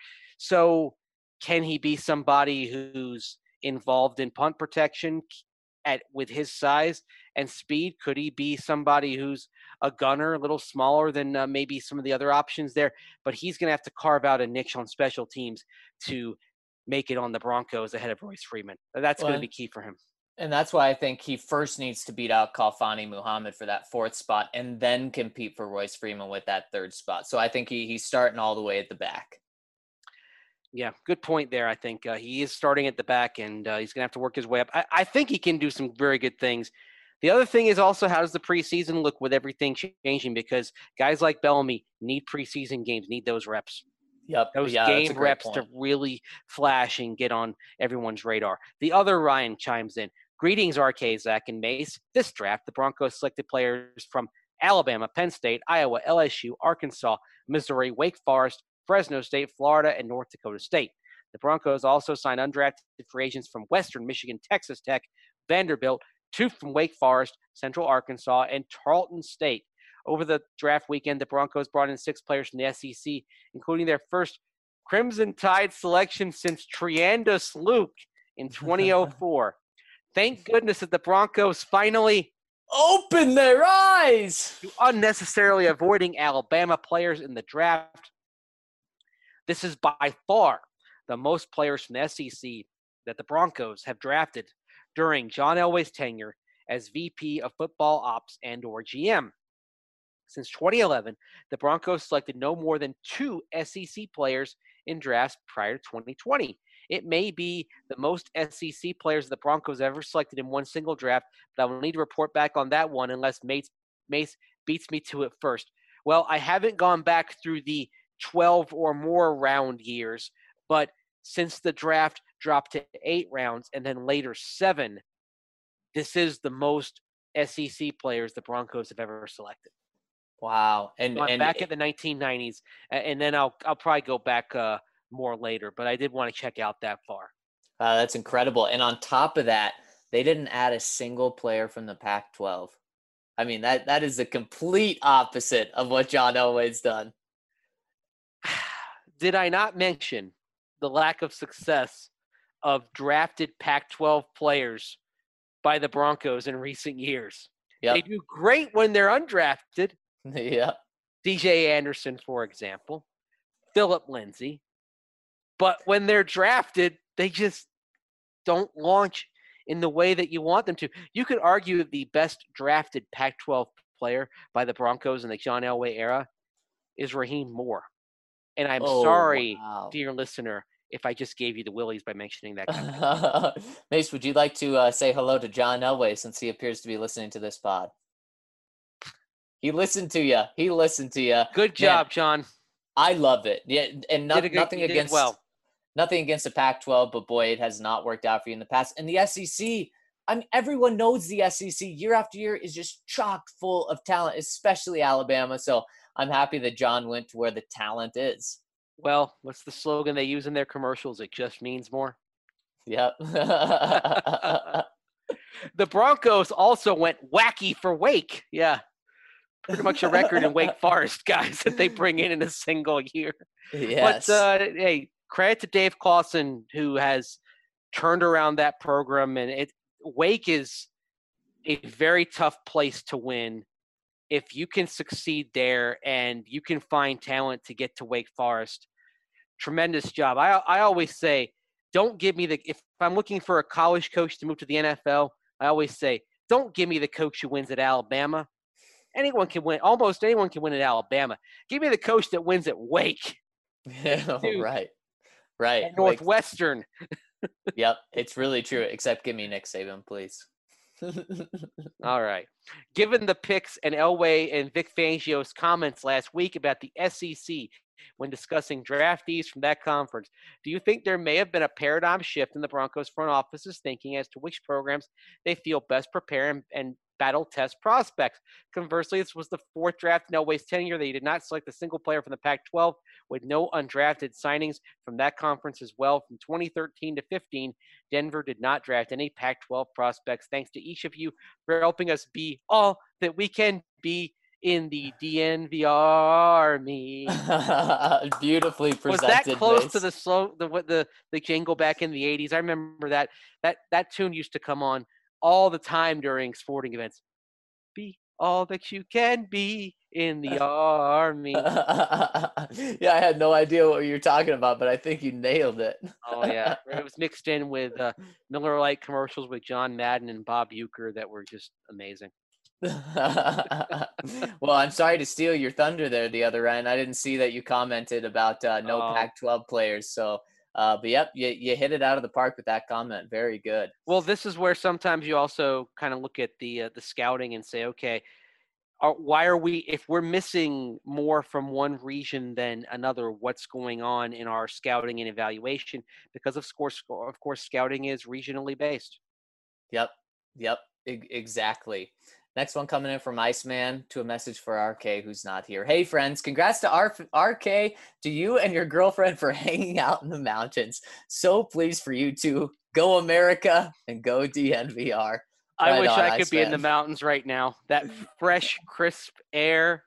C: So can he be somebody who's involved in punt protection with his size and speed? Could he be somebody who's a gunner, a little smaller than maybe some of the other options there? But he's going to have to carve out a niche on special teams to make it on the Broncos ahead of Royce Freeman. That's going to be key for him.
A: And that's why I think he first needs to beat out Khalfani Muhammad for that 4th spot and then compete for Royce Freeman with that 3rd spot. So I think he's starting all the way at the back.
C: Yeah, good point there. I think he is starting at the back, and he's going to have to work his way up. I think he can do some very good things. The other thing is also, how does the preseason look with everything changing? Because guys like Bellamy need preseason games, need those reps.
A: Yep.
C: Those game reps to really flash and get on everyone's radar. The other Ryan chimes in. Greetings, RK, Zach, and Mace. This draft, the Broncos selected players from Alabama, Penn State, Iowa, LSU, Arkansas, Missouri, Wake Forest, Fresno State, Florida, and North Dakota State. The Broncos also signed undrafted free agents from Western Michigan, Texas Tech, Vanderbilt, 2 from Wake Forest, Central Arkansas, and Tarleton State. Over the draft weekend, the Broncos brought in 6 players from the SEC, including their first Crimson Tide selection since Triandus Luke in 2004. Thank goodness that the Broncos finally
A: open their eyes
C: to unnecessarily avoiding Alabama players in the draft. This is by far the most players from the SEC that the Broncos have drafted during John Elway's tenure as VP of Football Ops and or GM. Since 2011, the Broncos selected no more than 2 SEC players in drafts prior to 2020. It may be the most SEC players the Broncos ever selected in one single draft, but I will need to report back on that one unless Mace beats me to it first. Well, I haven't gone back through the 12 or more round years, but since the draft dropped to 8 rounds and then later 7, this is the most SEC players the Broncos have ever selected.
A: Wow.
C: And back at the 1990s, and then I'll probably go back more later, but I did want to check out that far.
A: That's incredible. And on top of that, they didn't add a single player from the Pac-12. I mean, that is the complete opposite of what John Elway's done.
C: Did I not mention the lack of success of drafted Pac-12 players by the Broncos in recent years.
A: Yep.
C: They do great when they're undrafted.
A: Yep.
C: DJ Anderson, for example, Philip Lindsay. But when they're drafted, they just don't launch in the way that you want them to. You could argue that the best drafted Pac-12 player by the Broncos in the John Elway era is Raheem Moore. And I'm sorry,
A: Wow.
C: dear listener, if I just gave you the willies by mentioning that guy.
A: Mace, would you like to say hello to John Elway since he appears to be listening to this pod? He listened to you. He listened to you.
C: Good job, John.
A: I love it. Yeah, and nothing against nothing against the Pac-12, but boy, it has not worked out for you in the past. And the SEC, I mean, everyone knows the SEC year after year is just chock full of talent, especially Alabama. So I'm happy that John went to where the talent is.
C: Well, what's the slogan they use in their commercials? It just means more.
A: Yep.
C: The Broncos also went wacky for Wake. Yeah. Pretty much a record in Wake Forest, guys, that they bring in a single year.
A: Yes.
C: But, hey, credit to Dave Clawson, who has turned around that program. And Wake is a very tough place to win. If you can succeed there and you can find talent to get to Wake Forest, tremendous job. I always say, don't give me if I'm looking for a college coach to move to the NFL, I always say, don't give me the coach who wins at Alabama. Anyone can win. Almost anyone can win at Alabama. Give me the coach that wins at Wake.
A: Right. Right.
C: At Northwestern.
A: Yep. It's really true. Except give me Nick Saban, please.
C: All right. Given the picks and Elway and Vic Fangio's comments last week about the SEC when discussing draftees from that conference, do you think there may have been a paradigm shift in the Broncos front office's thinking as to which programs they feel best prepare and battle test prospects? Conversely, this was the fourth draft in Elway's tenure. They did not select a single player from the Pac-12 with no undrafted signings from that conference as well. From 2013 to 15, Denver did not draft any Pac-12 prospects. Thanks to each of you for helping us be all that we can be in the DNVR Army.
A: Beautifully presented.
C: Was that close to the jingle back in the 80s? I remember that tune used to come on all the time during sporting events. Be all that you can be in the Army.
A: Yeah, I had no idea what you were talking about, but I think you nailed it.
C: Oh, yeah. It was mixed in with Miller Lite commercials with John Madden and Bob Uecker that were just amazing.
A: Well, I'm sorry to steal your thunder there, the other end. I didn't see that you commented about no Pac-12 players. So, but yep, you hit it out of the park with that comment. Very good.
C: Well, this is where sometimes you also kind of look at the scouting and say, okay, why are we, if we're missing more from one region than another, what's going on in our scouting and evaluation? Because of course, scouting is regionally based.
A: Yep, exactly. Next one coming in from Iceman to a message for RK, who's not here. Hey, friends, congrats to RK, to you and your girlfriend for hanging out in the mountains. So pleased for you two. Go America and go DNVR.
C: I wish I could be in the mountains right now. That fresh, crisp air.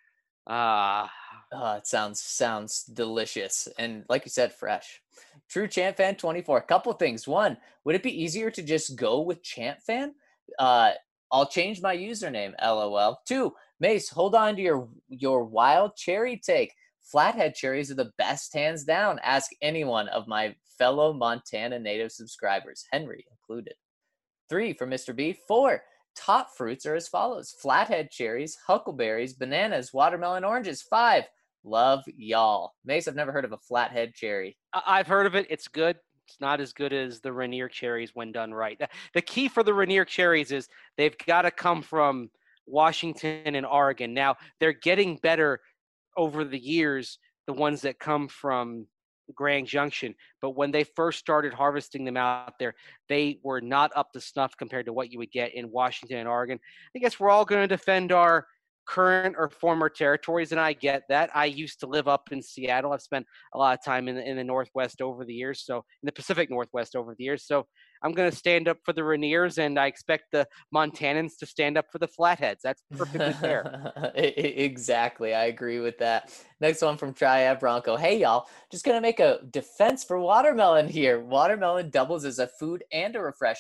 A: It sounds delicious. And like you said, fresh. True Chant Fan 24. A couple things. One, would it be easier to just go with Chant Fan? I'll change my username, LOL. 2, Mace, hold on to your wild cherry take. Flathead cherries are the best, hands down. Ask anyone of my fellow Montana native subscribers, Henry included. 3, for Mr. B. 4, top fruits are as follows. Flathead cherries, huckleberries, bananas, watermelon, oranges. 5, love y'all. Mace, I've never heard of a flathead cherry.
C: I've heard of it. It's good. It's not as good as the Rainier cherries when done right. The key for the Rainier cherries is they've got to come from Washington and Oregon. Now, they're getting better over the years, the ones that come from Grand Junction. But when they first started harvesting them out there, they were not up to snuff compared to what you would get in Washington and Oregon. I guess we're all going to defend our current or former territories, and I get that. I used to live up in Seattle. I've spent a lot of time in the Northwest over the years, so in the Pacific Northwest over the years. So I'm going to stand up for the Rainiers, and I expect the Montanans to stand up for the Flatheads. That's perfectly fair.
A: Exactly. I agree with that. Next one from Triad Bronco. Hey, y'all. Just going to make a defense for watermelon here. Watermelon doubles as a food and a refreshment.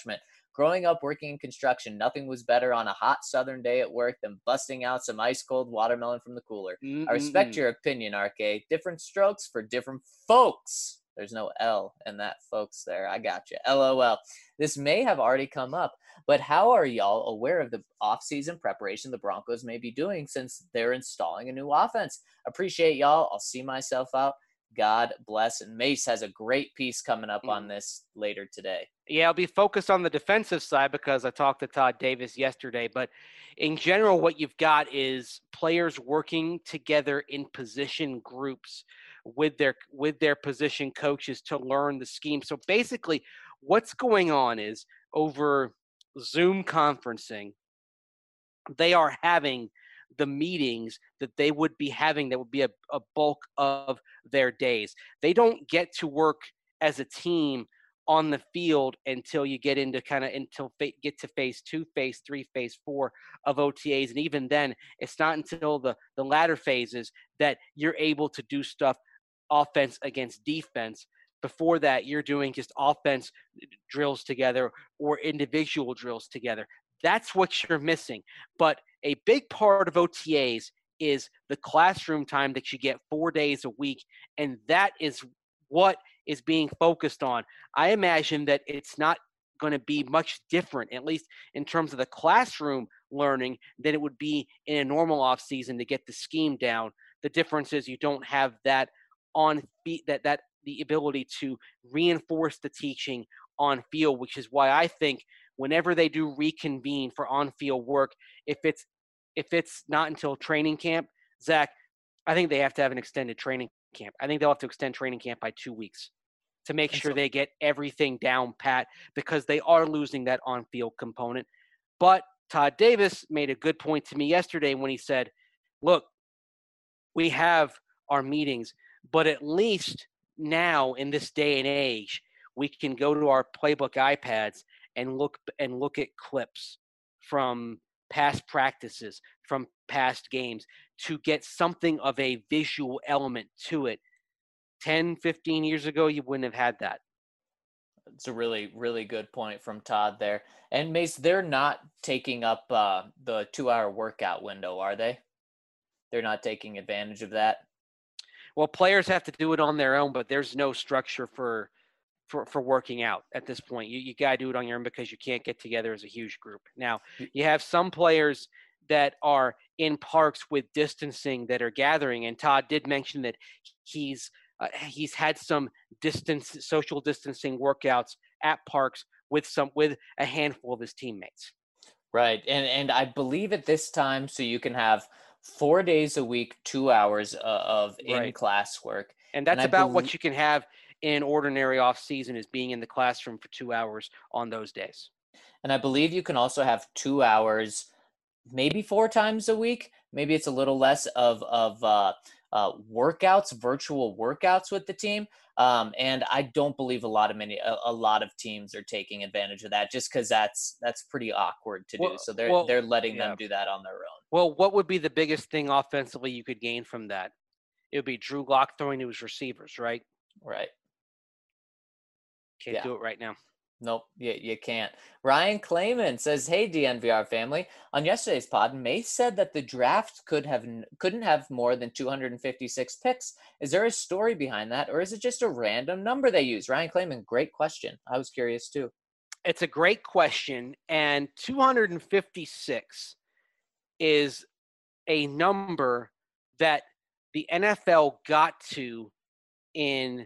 A: Growing up working in construction, nothing was better on a hot southern day at work than busting out some ice cold watermelon from the cooler. I respect
C: Mm-mm-mm.
A: your opinion, RK. Different strokes for different folks. There's no L in that folks there. I got you. LOL. This may have already come up, but how are y'all aware of the offseason preparation the Broncos may be doing since they're installing a new offense? Appreciate y'all. I'll see myself out. God bless. And Mace has a great piece coming up on this later today.
C: Yeah, I'll be focused on the defensive side because I talked to Todd Davis yesterday. But in general, what you've got is players working together in position groups with their position coaches to learn the scheme. So basically, what's going on is over Zoom conferencing, they are having the meetings that they would be having that would be a bulk of their days. They don't get to work as a team on the field until you get into get to phase 2, phase 3, phase 4 of OTAs. And even then, it's not until the latter phases that you're able to do stuff offense against defense. Before that, you're doing just offense drills together or individual drills together. That's what you're missing. But a big part of OTAs is the classroom time that you get 4 days a week. And that is what is being focused on. I imagine that it's not going to be much different, at least in terms of the classroom learning, than it would be in a normal off season to get the scheme down. The difference is you don't have that on feet, that the ability to reinforce the teaching on field, which is why I think whenever they do reconvene for on-field work, if it's not until training camp, Zach, I think they have to have an extended training camp. I think they'll have to extend training camp by 2 weeks to make sure they get everything down pat, because they are losing that on-field component. But Todd Davis made a good point to me yesterday when he said, look, we have our meetings, but at least now in this day and age, we can go to our playbook iPads and look at clips from past practices, from past games, to get something of a visual element to it. 10, 15 years ago, you wouldn't have had that.
A: It's a really, really good point from Todd there. And Mace, they're not taking up the 2-hour workout window, are they? They're not taking advantage of that.
C: Well, players have to do it on their own, but there's no structure for working out at this point. You got to do it on your own because you can't get together as a huge group. Now, you have some players that are in parks with distancing that are gathering, and Todd did mention that he's had some social distancing workouts at parks with a handful of his teammates.
A: Right. And I believe at this time, so you can have 4 days a week, 2 hours of in-class work.
C: And that's about what you can have in ordinary off season, is being in the classroom for 2 hours on those days.
A: And I believe you can also have 2 hours, maybe 4 times a week. Maybe it's a little less of workouts, virtual workouts with the team. And I don't believe a lot of teams are taking advantage of that, just because that's pretty awkward to do. So they're letting them do that on their own.
C: Well, what would be the biggest thing offensively you could gain from that? It would be Drew Lock throwing to his receivers, right?
A: Right.
C: Can't do it right now.
A: Nope, you can't. Ryan Clayman says, "Hey DNVR family, on yesterday's pod, Mace said that the draft couldn't have more than 256 picks. Is there a story behind that, or is it just a random number they use?" Ryan Clayman, great question. I was curious too.
C: It's a great question, and 256 is a number that the NFL got to in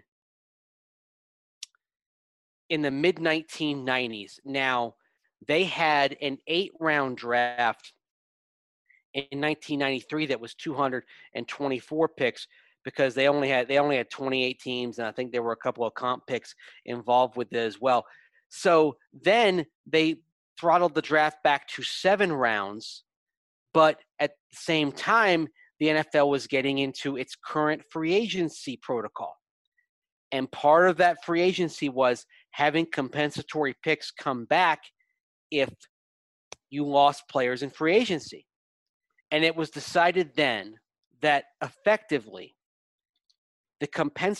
C: the mid-1990s. Now, they had an 8-round draft in 1993 that was 224 picks, because they only had 28 teams, and I think there were a couple of comp picks involved with it as well. So then they throttled the draft back to 7 rounds, but at the same time, the NFL was getting into its current free agency protocol. And part of that free agency was having compensatory picks come back if you lost players in free agency. And it was decided then that effectively the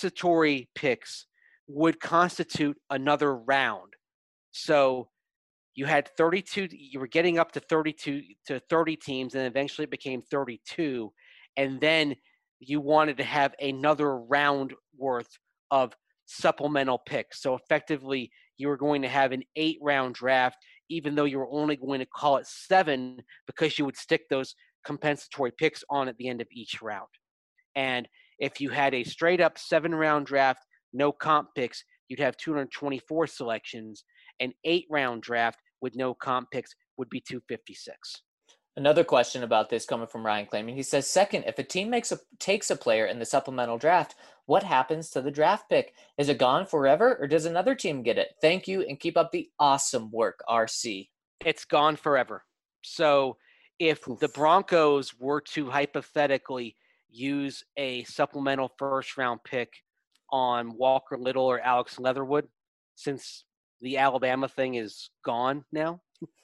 C: compensatory picks would constitute another round. So you had 32, you were getting up to 32 to 30 teams, and eventually it became 32. And then you wanted to have another round worth of supplemental picks. So effectively, you were going to have an 8-round draft, even though you were only going to call it 7 because you would stick those compensatory picks on at the end of each round. And if you had a straight up 7-round draft, no comp picks, you'd have 224 selections. An 8-round draft with no comp picks would be 256.
A: Another question about this coming from Ryan Claiming. He says, second, if a team takes a player in the supplemental draft, what happens to the draft pick? Is it gone forever, or does another team get it? Thank you, and keep up the awesome work, RC.
C: It's gone forever. So if
A: Oof.
C: the Broncos were to hypothetically use a supplemental first-round pick on Walker Little or Alex Leatherwood, since the Alabama thing is gone now,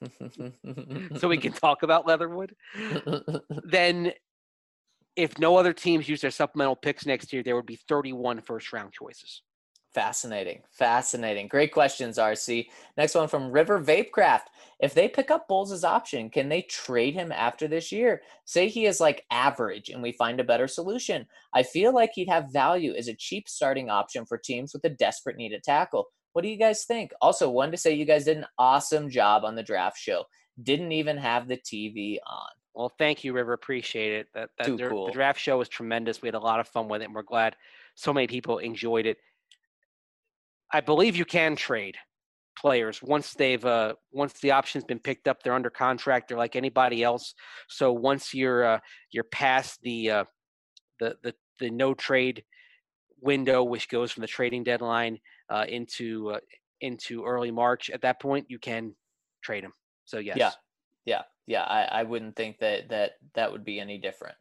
C: so we can talk about Leatherwood, then if no other teams use their supplemental picks next year, there would be 31 first-round choices.
A: Fascinating. Great questions, RC. Next one from River Vapecraft. If they pick up Bowles' option, can they trade him after this year? Say he is like average and we find a better solution. I feel like he'd have value as a cheap starting option for teams with a desperate need at tackle. What do you guys think? Also, wanted to say you guys did an awesome job on the draft show. Didn't even have the TV on.
C: Well, thank you, River. Appreciate it.
A: Cool.
C: The draft show was tremendous. We had a lot of fun with it, and we're glad so many people enjoyed it. I believe you can trade players once the option's been picked up. They're under contract. They're like anybody else. So once you're past the no trade window, which goes from the trading deadline into early March, at that point you can trade them. So yes.
A: Yeah. I wouldn't think that would be any different.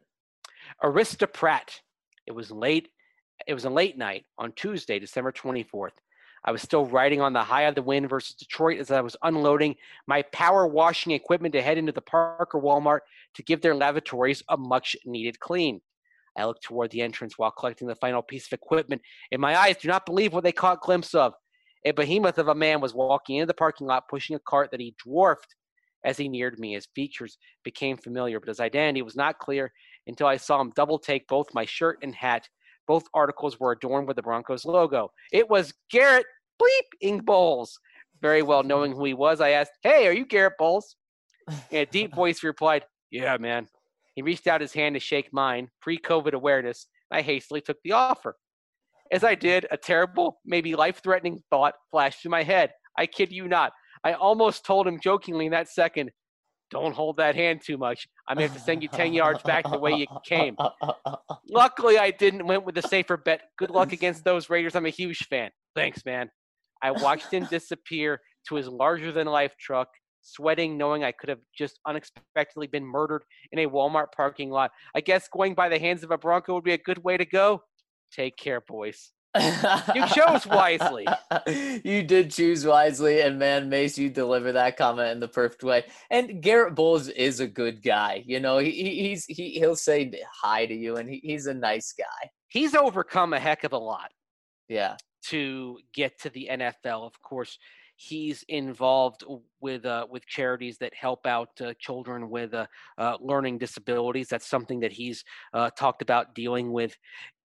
C: Arista Pratt. It was late. It was a late night on Tuesday, December 24th. I was still riding on the high of the win versus Detroit as I was unloading my power washing equipment to head into the Parker Walmart to give their lavatories a much-needed clean. I looked toward the entrance while collecting the final piece of equipment, and my eyes do not believe what they caught a glimpse of. A behemoth of a man was walking into the parking lot pushing a cart that he dwarfed as he neared me. His features became familiar, but his identity was not clear until I saw him double take both my shirt and hat. Both articles were adorned with the Broncos logo. It was Garrett Bleep Bowles. Very well knowing who he was, I asked, "Hey, are you Garrett Bowles?" In a deep voice, he replied, "Yeah, man." He reached out his hand to shake mine, pre-COVID awareness. I hastily took the offer. As I did, a terrible, maybe life-threatening thought flashed through my head. I kid you not. I almost told him jokingly in that second, "Don't hold that hand too much. I may have to send you 10 yards back the way you came." Luckily, I didn't. Went with the safer bet. Good luck against those Raiders. I'm a huge fan. Thanks, man. I watched him disappear to his larger-than-life truck, sweating, knowing I could have just unexpectedly been murdered in a Walmart parking lot. I guess going by the hands of a Bronco would be a good way to go. Take care, boys. You chose wisely.
A: You did choose wisely, and man, Mace, you deliver that comment in the perfect way. And Garrett Bowles is a good guy. You know, he'll say hi to you, and he's a nice guy.
C: He's overcome a heck of a lot.
A: Yeah.
C: To get to the NFL, of course, he's involved with charities that help out children with learning disabilities. That's something that he's talked about dealing with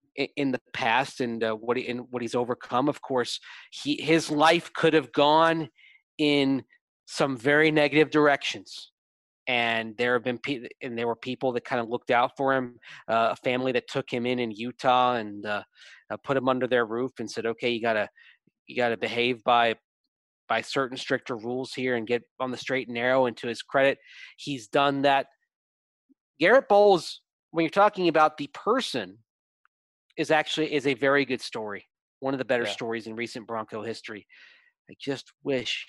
C: in the past, and what he's overcome. Of course, his life could have gone in some very negative directions, and there were people that kind of looked out for him. A family that took him in Utah and put him under their roof and said, "Okay, you gotta behave by certain stricter rules here and get on the straight and narrow." And to his credit, he's done that. Garrett Bowles, when you're talking about the person, is a very good story. One of the better stories in recent Bronco history. I just wish.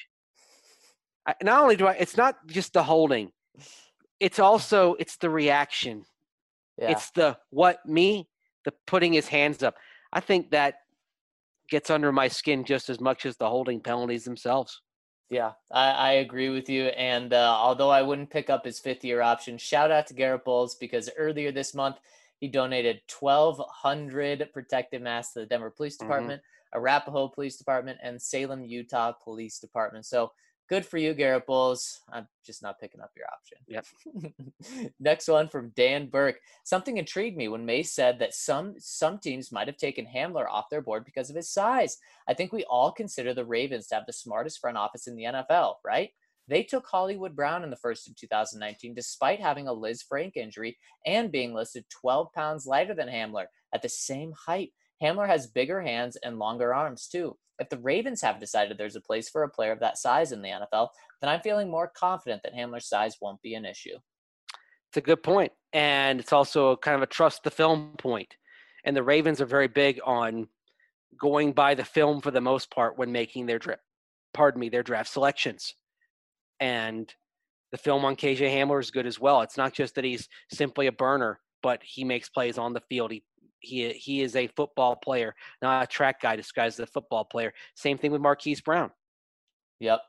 C: Not only it's not just the holding. It's the reaction.
A: Yeah.
C: It's the putting his hands up. I think that gets under my skin just as much as the holding penalties themselves.
A: Yeah, I agree with you. And although I wouldn't pick up his fifth-year option, shout out to Garrett Bowles, because earlier this month, he donated 1,200 protective masks to the Denver Police Department, Arapahoe Police Department, and Salem, Utah Police Department. So Good for you, Garrett Bowles. I'm just not picking up your option.
C: Yep.
A: Next one from Dan Burke. Something intrigued me when Mace said that some teams might have taken Hamler off their board because of his size. I think we all consider the Ravens to have the smartest front office in the NFL, right? They took Hollywood Brown in the first in 2019, despite having a Liz Frank injury and being listed 12 pounds lighter than Hamler at the same height. Hamler has bigger hands and longer arms, too. If the Ravens have decided there's a place for a player of that size in the NFL, then I'm feeling more confident that Hamler's size won't be an issue.
C: It's a good point. And it's also kind of a trust the film point. And the Ravens are very big on going by the film for the most part when making their draft selections. And the film on KJ Hamler is good as well. It's not just that he's simply a burner, but he makes plays on the field. He is a football player, not a track guy disguised as a football player. Same thing with Marquise Brown.
A: Yep.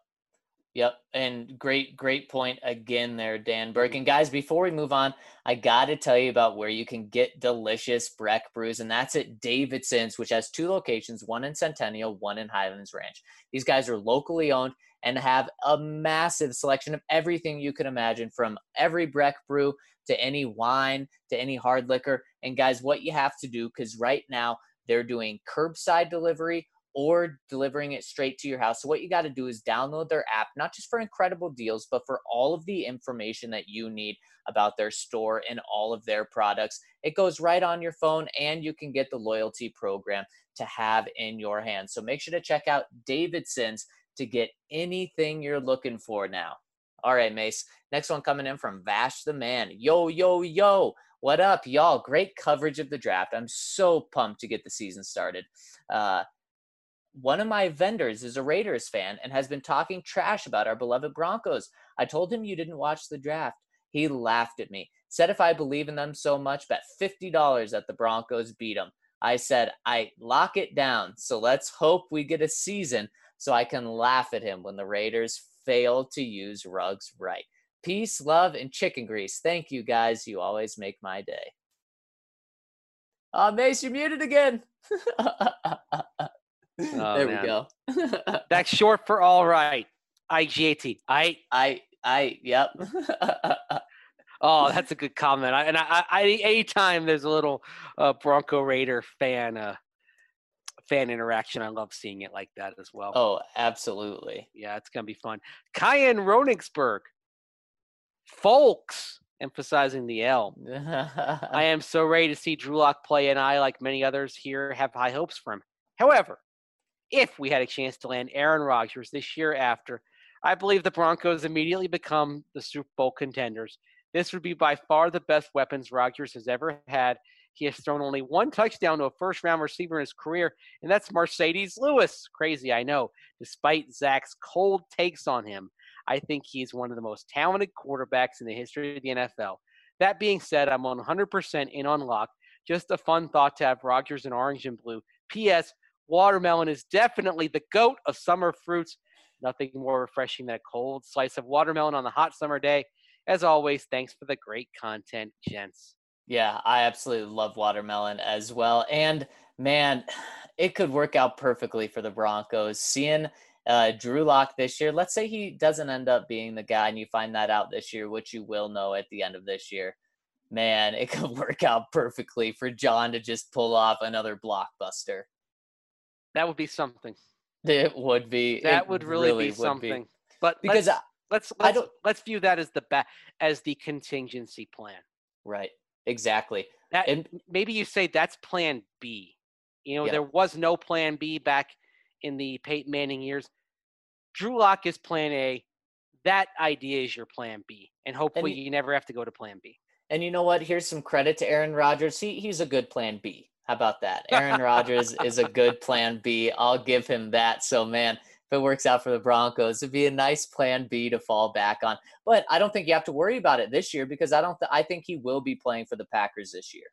A: And great point again there, Dan Burke. And guys, before we move on, I got to tell you about where you can get delicious Breck brews, and that's at Davidson's, which has 2 locations, one in Centennial, one in Highlands Ranch. These guys are locally owned and have a massive selection of everything you can imagine, from every Breck brew to any wine to any hard liquor. And guys, what you have to do, because right now they're doing curbside delivery or delivering it straight to your house. So what you got to do is download their app, not just for incredible deals, but for all of the information that you need about their store and all of their products. It goes right on your phone, and you can get the loyalty program to have in your hands. So make sure to check out Davidson's to get anything you're looking for now. All right, Mace. Next one coming in from Vash the Man. Yo. What up, y'all? Great coverage of the draft. I'm so pumped to get the season started. One of my vendors is a Raiders fan and has been talking trash about our beloved Broncos. I told him you didn't watch the draft. He laughed at me, said if I believe in them so much, bet $50 that the Broncos beat them. I said, I lock it down, so let's hope we get a season so I can laugh at him when the Raiders fail to use Ruggs right. Peace, love, and chicken grease. Thank you, guys. You always make my day. Mace, you're muted again. There we go.
C: That's short for all right. IGAT.
A: Yep.
C: Oh, that's a good comment. Anytime there's a little Bronco Raider fan interaction, I love seeing it like that as well.
A: Oh, absolutely.
C: Yeah, it's going to be fun. Kyan Ronigsberg. Folks, emphasizing the L. I am so ready to see Drew Lock play, and I, like many others here, have high hopes for him. However, if we had a chance to land Aaron Rodgers this year after, I believe the Broncos immediately become the Super Bowl contenders. This would be by far the best weapons Rodgers has ever had. He has thrown only 1 touchdown to a first-round receiver in his career, and that's Mercedes Lewis. Crazy, I know. Despite Zach's cold takes on him, I think he's one of the most talented quarterbacks in the history of the NFL. That being said, I'm 100% in on Lock. Just a fun thought to have Rodgers in orange and blue. P.S. Watermelon is definitely the GOAT of summer fruits. Nothing more refreshing than a cold slice of watermelon on a hot summer day. As always, thanks for the great content, gents.
A: Yeah, I absolutely love watermelon as well. And, man, it could work out perfectly for the Broncos. Seeing Drew Lock this year, let's say he doesn't end up being the guy and you find that out this year, which you will know at the end of this year. Man, it could work out perfectly for John to just pull off another blockbuster.
C: That would be something.
A: It would be.
C: That would really be something. But because let's view that as the contingency plan.
A: Right. Exactly.
C: And maybe you say that's plan B. There was no plan B back in the Peyton Manning years. Drew Lock is plan A. That idea is your plan B. And hopefully you never have to go to plan B.
A: And you know what? Here's some credit to Aaron Rodgers. He's a good plan B. How about that? Aaron Rodgers is a good plan B. I'll give him that. So, man, if it works out for the Broncos, it'd be a nice plan B to fall back on. But I don't think you have to worry about it this year because I think he will be playing for the Packers this year.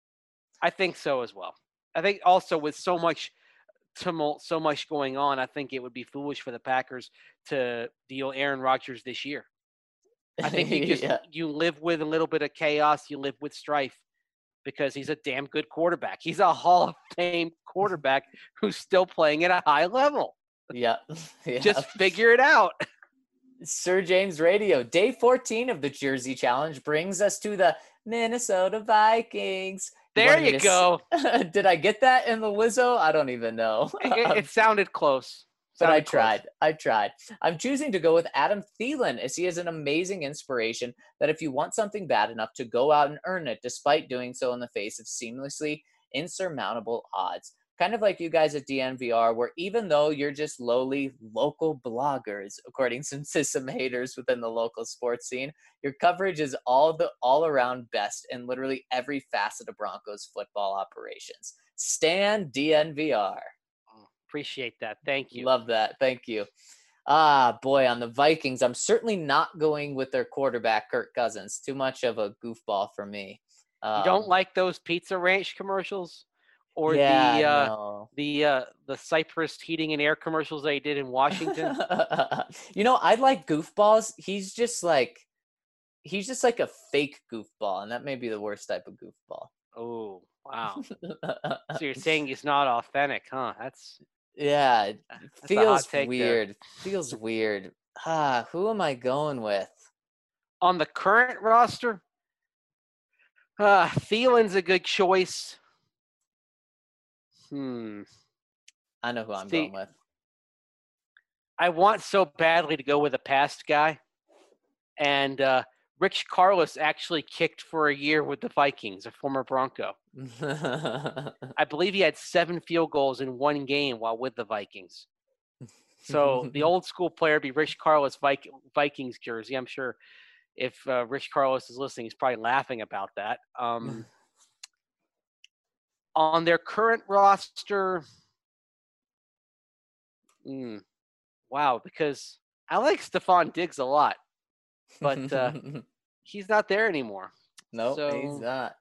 C: I think so as well. I think also with so much tumult, so much going on, I think it would be foolish for the Packers to deal Aaron Rodgers this year. I think you live with a little bit of chaos, you live with strife because he's a damn good quarterback. He's a Hall of Fame quarterback who's still playing at a high level.
A: Yeah.
C: Just figure it out.
A: Sir James Radio. Day 14 of the Jersey Challenge brings us to the Minnesota Vikings.
C: There you go.
A: Did I get that in the Lizzo? I don't even know.
C: It sounded close.
A: But I tried. I'm choosing to go with Adam Thielen, as he is an amazing inspiration that if you want something bad enough to go out and earn it, despite doing so in the face of seamlessly insurmountable odds. Kind of like you guys at DNVR, where even though you're just lowly local bloggers, according to some haters within the local sports scene, your coverage is all around best in literally every facet of Broncos football operations. Stan DNVR.
C: Appreciate that. Thank you.
A: Love that. Thank you. Boy, on the Vikings, I'm certainly not going with their quarterback, Kirk Cousins. Too much of a goofball for me.
C: You don't like those Pizza Ranch commercials? Or
A: no.
C: the Cypress heating and air commercials they did in Washington?
A: I like goofballs. He's just like a fake goofball, and that may be the worst type of goofball.
C: Oh, wow. So you're saying he's not authentic, huh? That's
A: it
C: that's
A: feels weird. Feels weird. Who am I going with?
C: On the current roster, Thielen's a good choice.
A: I know who I'm going with.
C: I want so badly to go with a past guy. And Rich Carlos actually kicked for a year with the Vikings, a former Bronco. I believe he had 7 field goals in one game while with the Vikings. So the old school player would be Rich Carlos Vikings jersey. I'm sure if Rich Carlos is listening, he's probably laughing about that. On their current roster, wow, because I like Stephon Diggs a lot, but he's not there anymore.
A: No, he's not.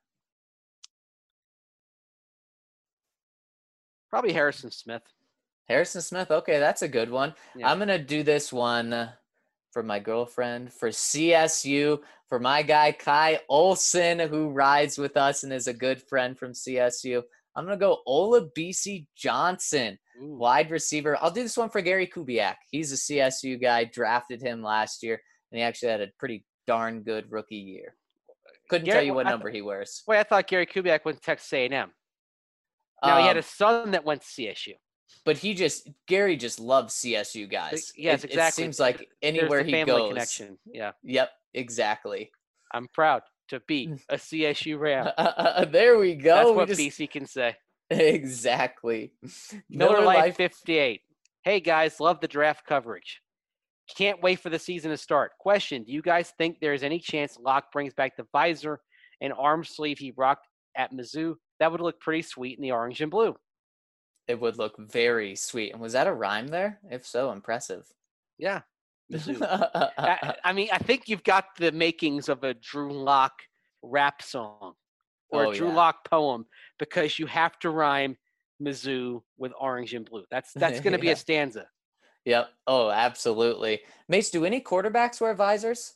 C: Probably Harrison Smith.
A: Harrison Smith, okay, that's a good one.
C: Yeah.
A: I'm going to do this one for my girlfriend, for CSU, for my guy Kai Olsen, who rides with us and is a good friend from CSU. I'm going to go Olabisi Johnson, wide receiver. I'll do this one for Gary Kubiak. He's a CSU guy, drafted him last year, and he actually had a pretty darn good rookie year. Couldn't tell you what number he wears.
C: Wait, I thought Gary Kubiak went to Texas A&M. Now, he had a son that went to CSU.
A: But Gary just loves CSU guys.
C: Yes, exactly.
A: It seems like anywhere he goes.
C: Connection. Yeah.
A: Yep, exactly.
C: I'm proud to be a CSU Ram.
A: There we go.
C: That's what BC can say.
A: Exactly.
C: Miller Lite 58. Hey, guys, love the draft coverage. Can't wait for the season to start. Question, do you guys think there's any chance Locke brings back the visor and arm sleeve he rocked at Mizzou? That would look pretty sweet in the orange and blue.
A: It would look very sweet. And was that a rhyme there? If so, impressive.
C: Yeah. Mizzou. I mean, I think you've got the makings of a Drew Lock rap song or a Drew Lock poem, because you have to rhyme Mizzou with orange and blue. That's going to be a stanza.
A: Yep. Oh, absolutely. Mace, do any quarterbacks wear visors?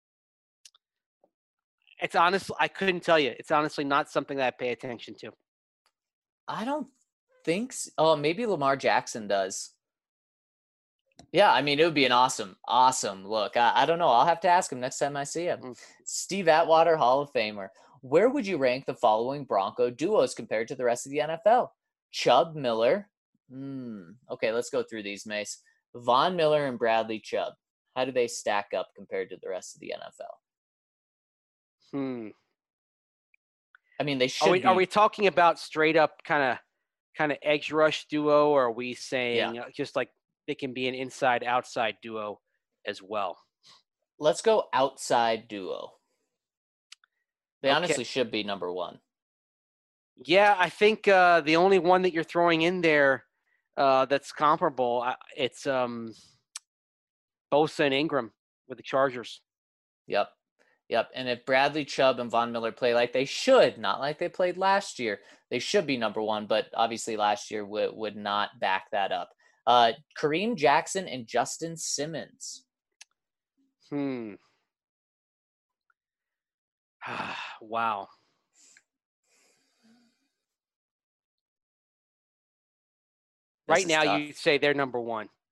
C: It's honestly, I couldn't tell you. It's honestly not something that I pay attention to.
A: I don't think so. Oh, maybe Lamar Jackson does. Yeah, I mean, it would be an awesome look. I don't know. I'll have to ask him next time I see him. Steve Atwater, Hall of Famer. Where would you rank the following Bronco duos compared to the rest of the NFL? Chubb, Miller. Okay, let's go through these, Mace. Von Miller and Bradley Chubb. How do they stack up compared to the rest of the NFL? I mean, they should.
C: Are we talking about straight up kind of edge rush duo, or are we saying just like they can be an inside outside duo as well?
A: Let's go outside duo. They honestly should be number one.
C: Yeah, I think the only one that you're throwing in there that's comparable, it's Bosa and Ingram with the Chargers.
A: Yep. And if Bradley Chubb and Von Miller play like they should, not like they played last year, they should be number one, but obviously last year would not back that up. Kareem Jackson and Justin Simmons.
C: Wow. Right now, you'd say they're number one.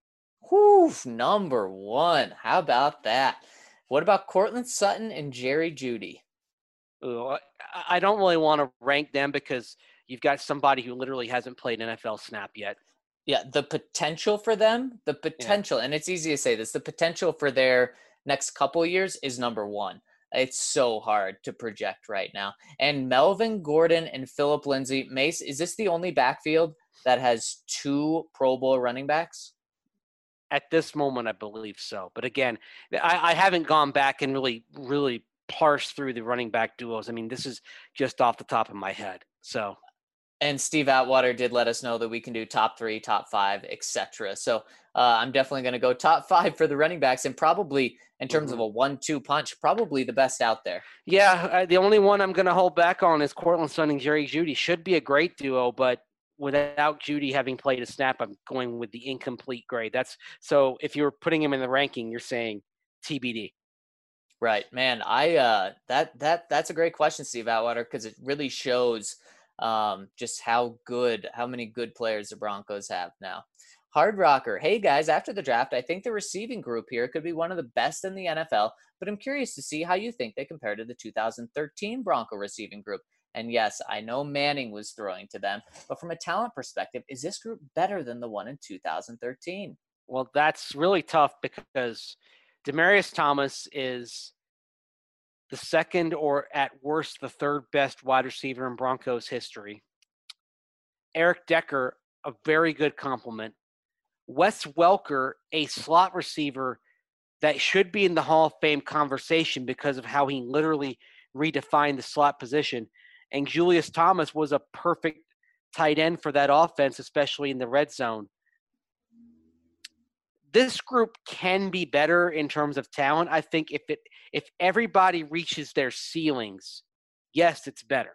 A: Whew, number one. How about that? What about Cortland Sutton and Jerry Judy?
C: Ooh, I don't really want to rank them because you've got somebody who literally hasn't played an NFL snap yet.
A: Yeah, the potential for them,
C: Yeah.
A: and it's easy to say this, the potential for their next couple years is number one. It's so hard to project right now. And Melvin Gordon and Philip Lindsay, Mace, is this the only backfield that has two Pro Bowl running backs?
C: At this moment, I believe so. But again, I haven't gone back and really parsed through the running back duos. I mean, this is just off the top of my head. So
A: And Steve Atwater did let us know that we can do top three, top five, etc. So I'm definitely going to go top five for the running backs, and probably in terms of a 1-2 punch, probably the best out there.
C: Yeah, the only one I'm going to hold back on is Cortland Sutton and Jerry Judy. Should be a great duo, but without Judy having played a snap, I'm going with the incomplete grade. That's so if you're putting him in the ranking, you're saying TBD.
A: Right, man. That's a great question, Steve Atwater, because it really shows just how many good players the Broncos have now. Hard Rocker, hey guys, after the draft, I think the receiving group here could be one of the best in the NFL, but I'm curious to see how you think they compare to the 2013 Bronco receiving group. And yes, I know Manning was throwing to them, but from a talent perspective, is this group better than the one in 2013?
C: Well, that's really tough because Demaryius Thomas is the second or at worst the third best wide receiver in Broncos history. Eric Decker, a very good compliment. Wes Welker, a slot receiver that should be in the Hall of Fame conversation because of how he literally redefined the slot position. And Julius Thomas was a perfect tight end for that offense, especially in the red zone. This group can be better in terms of talent. I think if everybody reaches their ceilings, yes, it's better.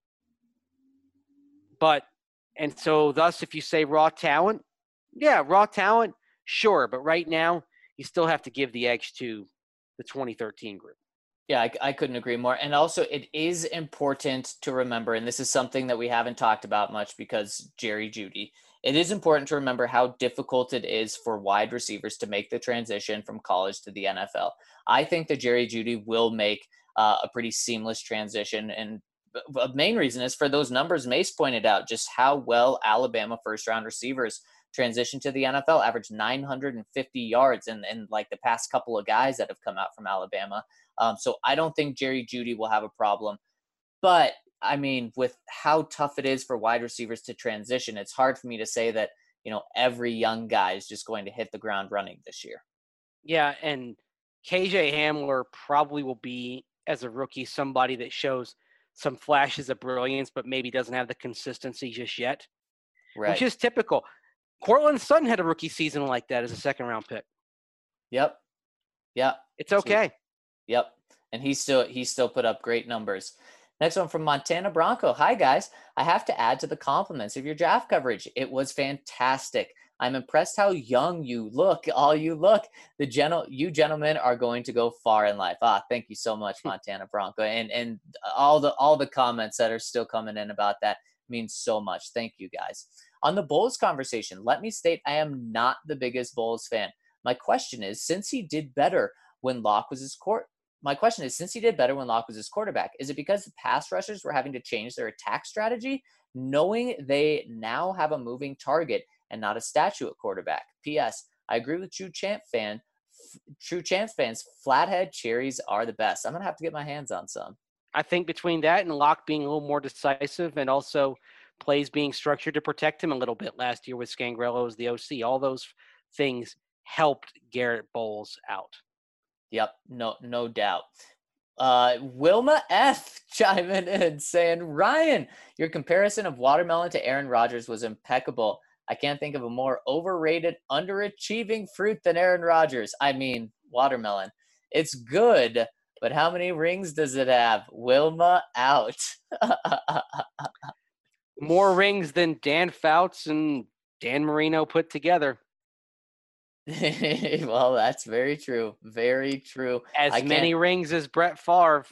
C: But and so thus if you say raw talent, yeah, raw talent, sure. But right now, you still have to give the edge to the 2013 group.
A: Yeah, I couldn't agree more. And also, it is important to remember, and this is something that we haven't talked about much because Jerry Judy, it is important to remember how difficult it is for wide receivers to make the transition from college to the NFL. I think that Jerry Judy will make a pretty seamless transition. And the main reason is for those numbers Mace pointed out, just how well Alabama first round receivers transition to the NFL, averaged 950 yards in like the past couple of guys that have come out from Alabama. So I don't think Jerry Judy will have a problem. But I mean, with how tough it is for wide receivers to transition, it's hard for me to say that, every young guy is just going to hit the ground running this year.
C: Yeah, and KJ Hamler probably will be, as a rookie, somebody that shows some flashes of brilliance, but maybe doesn't have the consistency just yet, which
A: Right.
C: is typical. Cortland Sutton had a rookie season like that as a second-round pick.
A: Yep. Yep.
C: It's okay.
A: Yep. And he still put up great numbers. Next one from Montana Bronco. Hi guys. I have to add to the compliments of your draft coverage. It was fantastic. I'm impressed how young you look. All you look. You gentlemen are going to go far in life. Thank you so much, Montana Bronco. And all the comments that are still coming in about that means so much. Thank you guys. On the Bulls conversation, let me state I am not the biggest Bulls fan. My question is, since he did better when Locke was his quarterback, is it because the pass rushers were having to change their attack strategy, knowing they now have a moving target and not a statue at quarterback? P.S. I agree with True Champs fans. Flathead cherries are the best. I'm gonna have to get my hands on some.
C: I think between that and Locke being a little more decisive and also plays being structured to protect him a little bit last year with Scangarello as the OC, all those things helped Garrett Bowles out.
A: Yep, no doubt. Wilma F chiming in saying, Ryan, your comparison of Watermelon to Aaron Rodgers was impeccable. I can't think of a more overrated, underachieving fruit than Aaron Rodgers. I mean, watermelon. It's good, but how many rings does it have? Wilma out.
C: More rings than Dan Fouts and Dan Marino put together.
A: Well, that's very true. Very true.
C: As many rings as Brett Favre.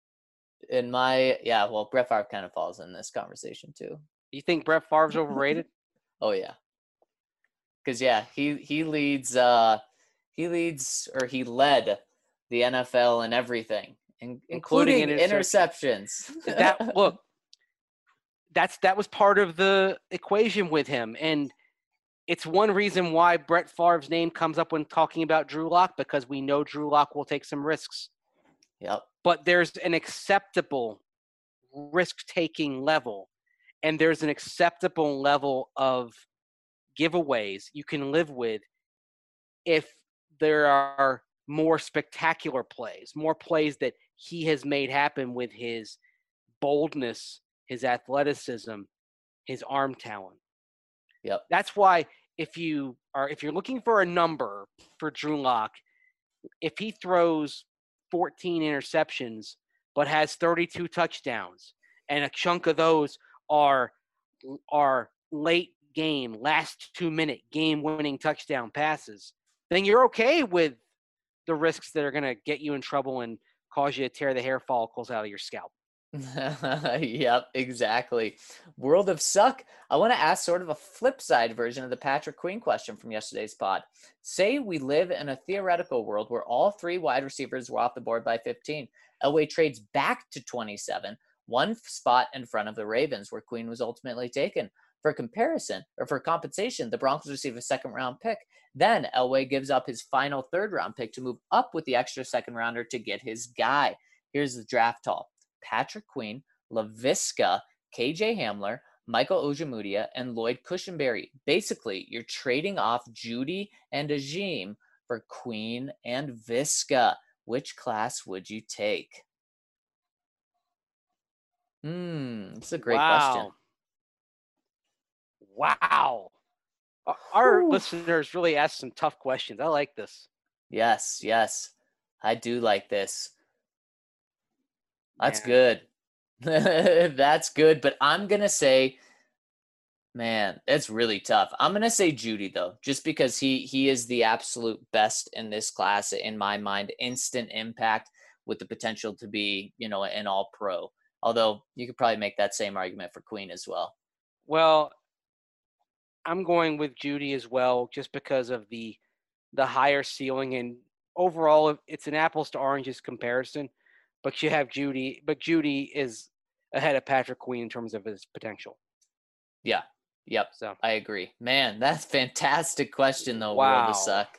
A: Brett Favre kind of falls in this conversation too.
C: You think Brett Favre's overrated?
A: Oh yeah. because yeah, he leads or he led the NFL in everything,
C: including
A: including interceptions.
C: Look, that was part of the equation with him, and it's one reason why Brett Favre's name comes up when talking about Drew Lock, because we know Drew Lock will take some risks.
A: Yep.
C: But there's an acceptable risk-taking level, and there's an acceptable level of giveaways you can live with if there are more spectacular plays, more plays that he has made happen with his boldness, his athleticism, his arm talent.
A: Yep.
C: That's why if you're looking for a number for Drew Lock, if he throws 14 interceptions but has 32 touchdowns, and a chunk of those are late game, last 2-minute game-winning touchdown passes, then you're okay with the risks that are going to get you in trouble and cause you to tear the hair follicles out of your scalp.
A: Yep, exactly. World of Suck. I want to ask sort of a flip side version of the Patrick Queen question from yesterday's pod. Say we live in a theoretical world where all 3 wide receivers were off the board by 15. Elway trades back to 27, 1 spot in front of the Ravens, where Queen was ultimately taken. For comparison, or for compensation, the Broncos receive a second-round pick. Then Elway gives up his final third-round pick to move up with the extra second-rounder to get his guy. Here's the draft haul. Patrick Queen, Laviska, KJ Hamler, Michael Ojemudia, and Lloyd Cushenberry. Basically, you're trading off Judy and Ajim for Queen and Viska. Which class would you take? It's a great question.
C: Wow. Our listeners really asked some tough questions. I like this.
A: Yes. I do like this. That's good. That's good. But I'm going to say, man, it's really tough. I'm going to say Judy, though, just because he is the absolute best in this class, in my mind. Instant impact with the potential to be, an all-pro. Although you could probably make that same argument for Queen as well.
C: Well, I'm going with Judy as well, just because of the higher ceiling, and overall it's an apples to oranges comparison. But you have Judy, but Judy is ahead of Patrick Queen in terms of his potential.
A: Yeah. Yep. So I agree. Man, that's a fantastic question, though.
C: Wow.
A: World of Suck.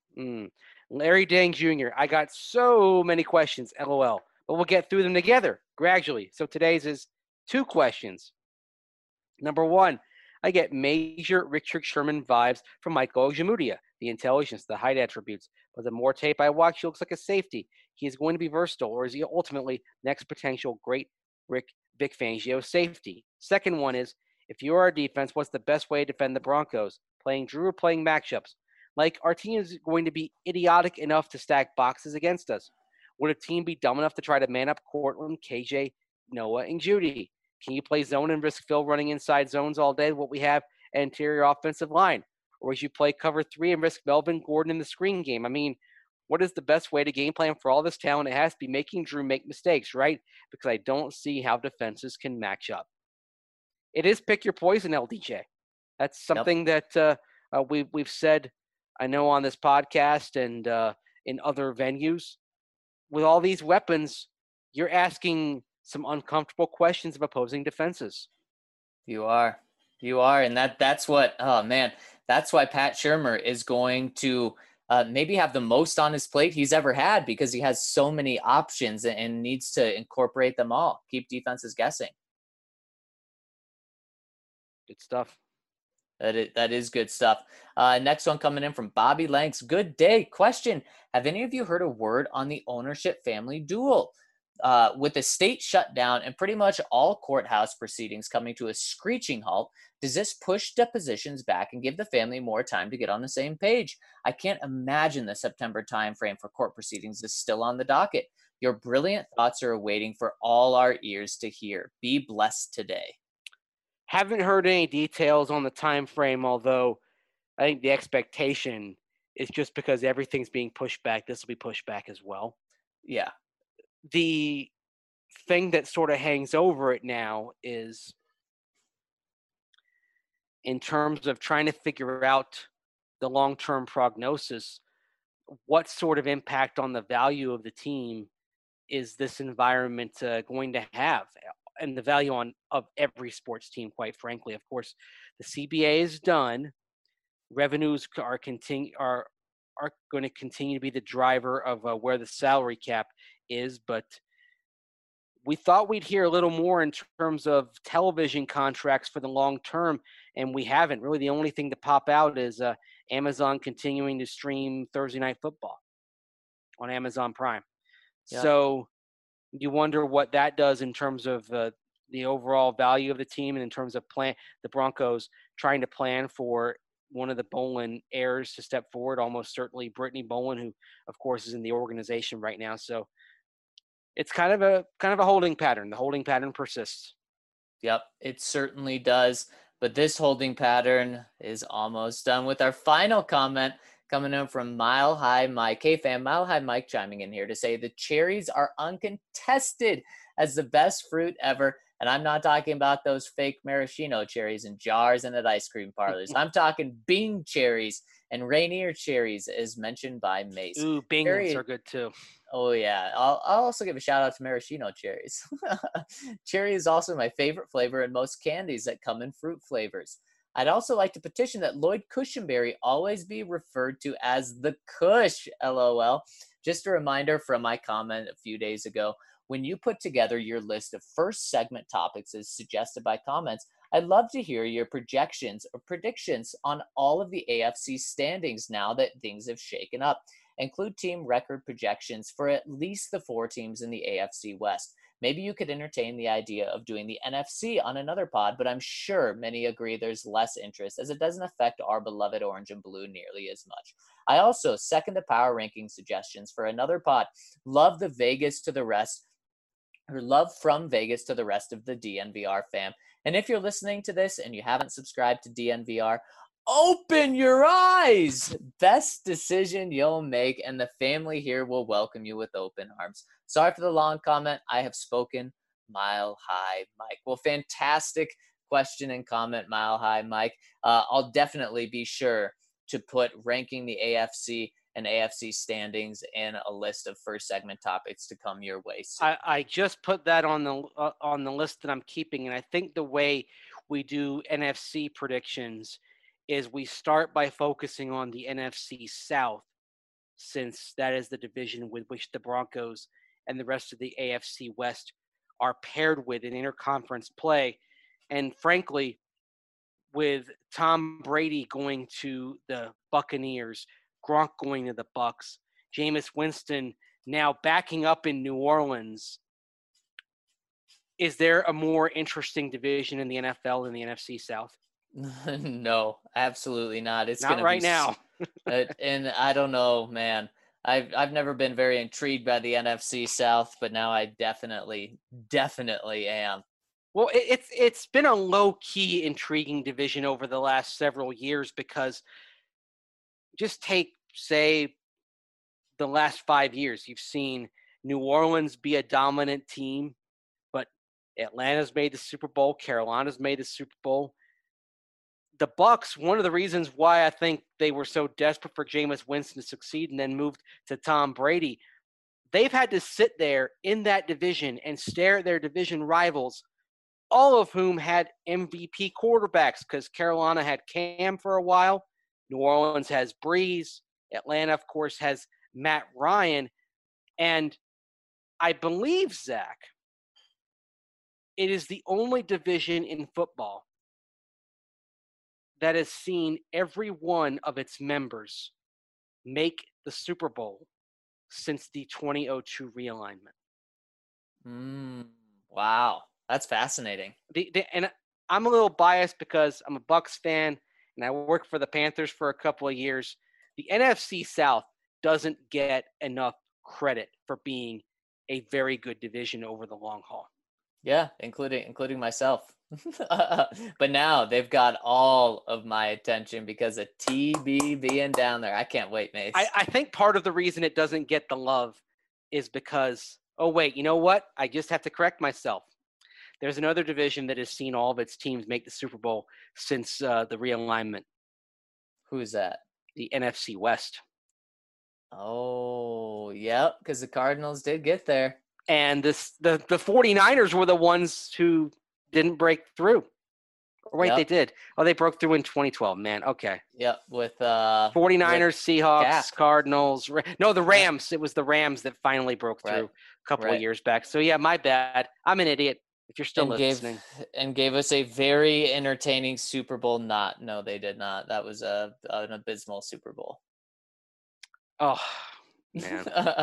C: Larry Dang Jr. I got so many questions, LOL. But we'll get through them together gradually. So today's is 2 questions. Number 1, I get major Richard Sherman vibes from Michael Ojemudia. The intelligence, the height attributes. But the more tape I watch, he looks like a safety. He is going to be versatile, or is he ultimately next potential great Vic Fangio safety? Second one is, if you are our defense, what's the best way to defend the Broncos? Playing Drew or playing matchups? Like, our team is going to be idiotic enough to stack boxes against us. Would a team be dumb enough to try to man up Cortland, KJ, Noah, and Judy? Can you play zone and risk Phil running inside zones all day, what we have at interior offensive line? Or would you play cover 3 and risk Melvin Gordon in the screen game? I mean, what is the best way to game plan for all this talent? It has to be making Drew make mistakes, right? Because I don't see how defenses can match up. It is pick your poison, LDJ. That's something that we've said, I know, on this podcast and in other venues. With all these weapons, you're asking some uncomfortable questions of opposing defenses.
A: You are, and that's what. Oh man, that's why Pat Shurmur is going to maybe have the most on his plate he's ever had, because he has so many options and needs to incorporate them all. Keep defenses guessing.
C: Good stuff.
A: That is good stuff. Next one coming in from Bobby Lanks. Good day. Question: have any of you heard a word on the ownership family duel? With the state shut down and pretty much all courthouse proceedings coming to a screeching halt, does this push depositions back and give the family more time to get on the same page? I can't imagine the September timeframe for court proceedings is still on the docket. Your brilliant thoughts are awaiting for all our ears to hear. Be blessed today.
C: Haven't heard any details on the time frame, although I think the expectation is just because everything's being pushed back, this will be pushed back as well.
A: Yeah.
C: The thing that sort of hangs over it now is, in terms of trying to figure out the long-term prognosis, what sort of impact on the value of the team is this environment going to have, and the value of every sports team, quite frankly. Of course, the CBA is done. Revenues are going to continue to be the driver of where the salary cap is, but we thought we'd hear a little more in terms of television contracts for the long term, and we haven't. Really, the only thing to pop out is Amazon continuing to stream Thursday Night Football on Amazon Prime.
A: Yep.
C: So you wonder what that does in terms of the overall value of the team, and in terms of the Broncos trying to plan for one of the Bowlen heirs to step forward, almost certainly Brittany Bowlen, who, of course, is in the organization right now. So it's kind of a holding pattern. The holding pattern persists.
A: Yep, it certainly does. But this holding pattern is almost done with our final comment coming in from Mile High Mike. Hey, fam, Mile High Mike chiming in here to say the cherries are uncontested as the best fruit ever. And I'm not talking about those fake maraschino cherries in jars and at ice cream parlors. I'm talking Bing cherries and Rainier cherries, as mentioned by Mace.
C: Ooh, Bing's are good too.
A: Oh, yeah. I'll also give a shout out to maraschino cherries. Cherry is also my favorite flavor in most candies that come in fruit flavors. I'd also like to petition that Lloyd Cushenberry always be referred to as the Kush, LOL. Just a reminder from my comment a few days ago, when you put together your list of first segment topics as suggested by comments, I'd love to hear your projections or predictions on all of the AFC standings now that things have shaken up. Include team record projections for at least the 4 teams in the AFC West. Maybe you could entertain the idea of doing the NFC on another pod, but I'm sure many agree there's less interest as it doesn't affect our beloved orange and blue nearly as much. I also second the power ranking suggestions for another pod. Love from Vegas to the rest of the DNVR fam. And if you're listening to this and you haven't subscribed to DNVR, open your eyes. Best decision you'll make, and the family here will welcome you with open arms. Sorry for the long comment. I have spoken. Mile High Mike. Well, fantastic question and comment, Mile High Mike. I'll definitely be sure to put ranking the AFC and AFC standings in a list of first segment topics to come your way soon.
C: I just put that on the list that I'm keeping, and I think the way we do NFC predictions is we start by focusing on the NFC South, since that is the division with which the Broncos and the rest of the AFC West are paired with in interconference play. And frankly, with Tom Brady going to the Buccaneers, Gronk going to the Bucs, Jameis Winston now backing up in New Orleans, is there a more interesting division in the NFL than the NFC South?
A: No, absolutely not. It's
C: not right now.
A: And I don't know, man. I've never been very intrigued by the NFC South, but now I definitely am.
C: Well, it's been a low-key intriguing division over the last several years, because just take, say, the last 5 years. You've seen New Orleans be a dominant team, but Atlanta's made the Super Bowl. Carolina's made the Super Bowl. The Bucs, one of the reasons why I think they were so desperate for Jameis Winston to succeed and then moved to Tom Brady, they've had to sit there in that division and stare at their division rivals, all of whom had MVP quarterbacks, because Carolina had Cam for a while. New Orleans has Breeze. Atlanta, of course, has Matt Ryan. And I believe, Zach, it is the only division in football that has seen every one of its members make the Super Bowl since the 2002 realignment.
A: Wow, that's fascinating.
C: And I'm a little biased because I'm a Bucs fan and I worked for the Panthers for a couple of years. The NFC South doesn't get enough credit for being a very good division over the long haul.
A: Yeah, including myself. But now they've got all of my attention because of TB being down there. I can't wait, Mace.
C: I think part of the reason it doesn't get the love is because, oh, wait, you know what? I just have to correct myself. There's another division that has seen all of its teams make the Super Bowl since the realignment.
A: Who's that?
C: the NFC West.
A: Oh, yep, because the Cardinals did get there.
C: And the 49ers were the ones who didn't break through. Or wait,
A: Yep.
C: they did. Oh, they broke through in 2012, man. Okay.
A: Yep, with
C: 49ers, Seahawks,
A: Cap.
C: Cardinals. No, the Rams. It was the Rams that finally broke through a couple of years back. So, yeah, my bad. I'm an idiot if you're still listening.
A: Gave us a very entertaining Super Bowl. No, they did not. That was an abysmal Super Bowl.
C: Oh, man.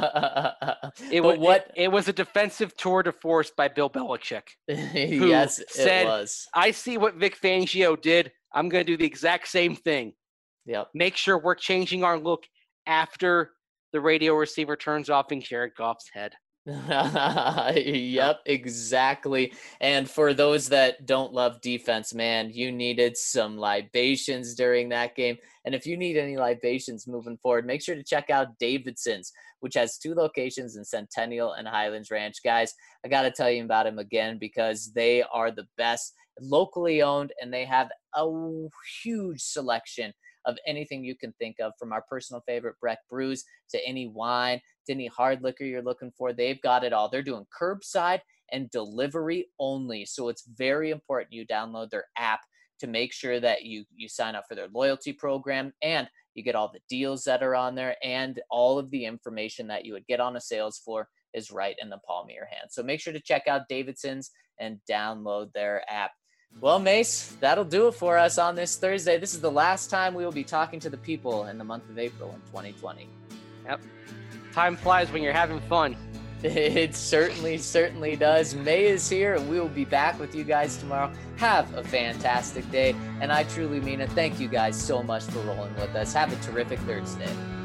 A: It
C: was a defensive tour de force by Bill Belichick.
A: Yes,
C: said,
A: it was.
C: I see what Vic Fangio did. I'm going to do the exact same thing.
A: Yep.
C: Make sure we're changing our look after the radio receiver turns off in Jared Goff's head.
A: Yep, exactly. And for those that don't love defense, man, you needed some libations during that game. And if you need any libations moving forward, make sure to check out Davidson's, which has 2 locations in Centennial and Highlands Ranch. Guys, I got to tell you about them again because they are the best, locally owned, and they have a huge selection of anything you can think of, from our personal favorite Breck brews to any wine to any hard liquor you're looking for. They've got it all. They're doing curbside and delivery only. So it's very important you download their app to make sure that you sign up for their loyalty program, and you get all the deals that are on there, and all of the information that you would get on a sales floor is right in the palm of your hand. So make sure to check out Davidson's and download their app. Well, Mace, that'll do it for us on this Thursday. This is the last time we will be talking to the people in the month of April in 2020.
C: Yep. Time flies when you're having fun.
A: It certainly does. May is here, and we will be back with you guys tomorrow. Have a fantastic day, and I truly mean it. Thank you guys so much for rolling with us. Have a terrific Thursday.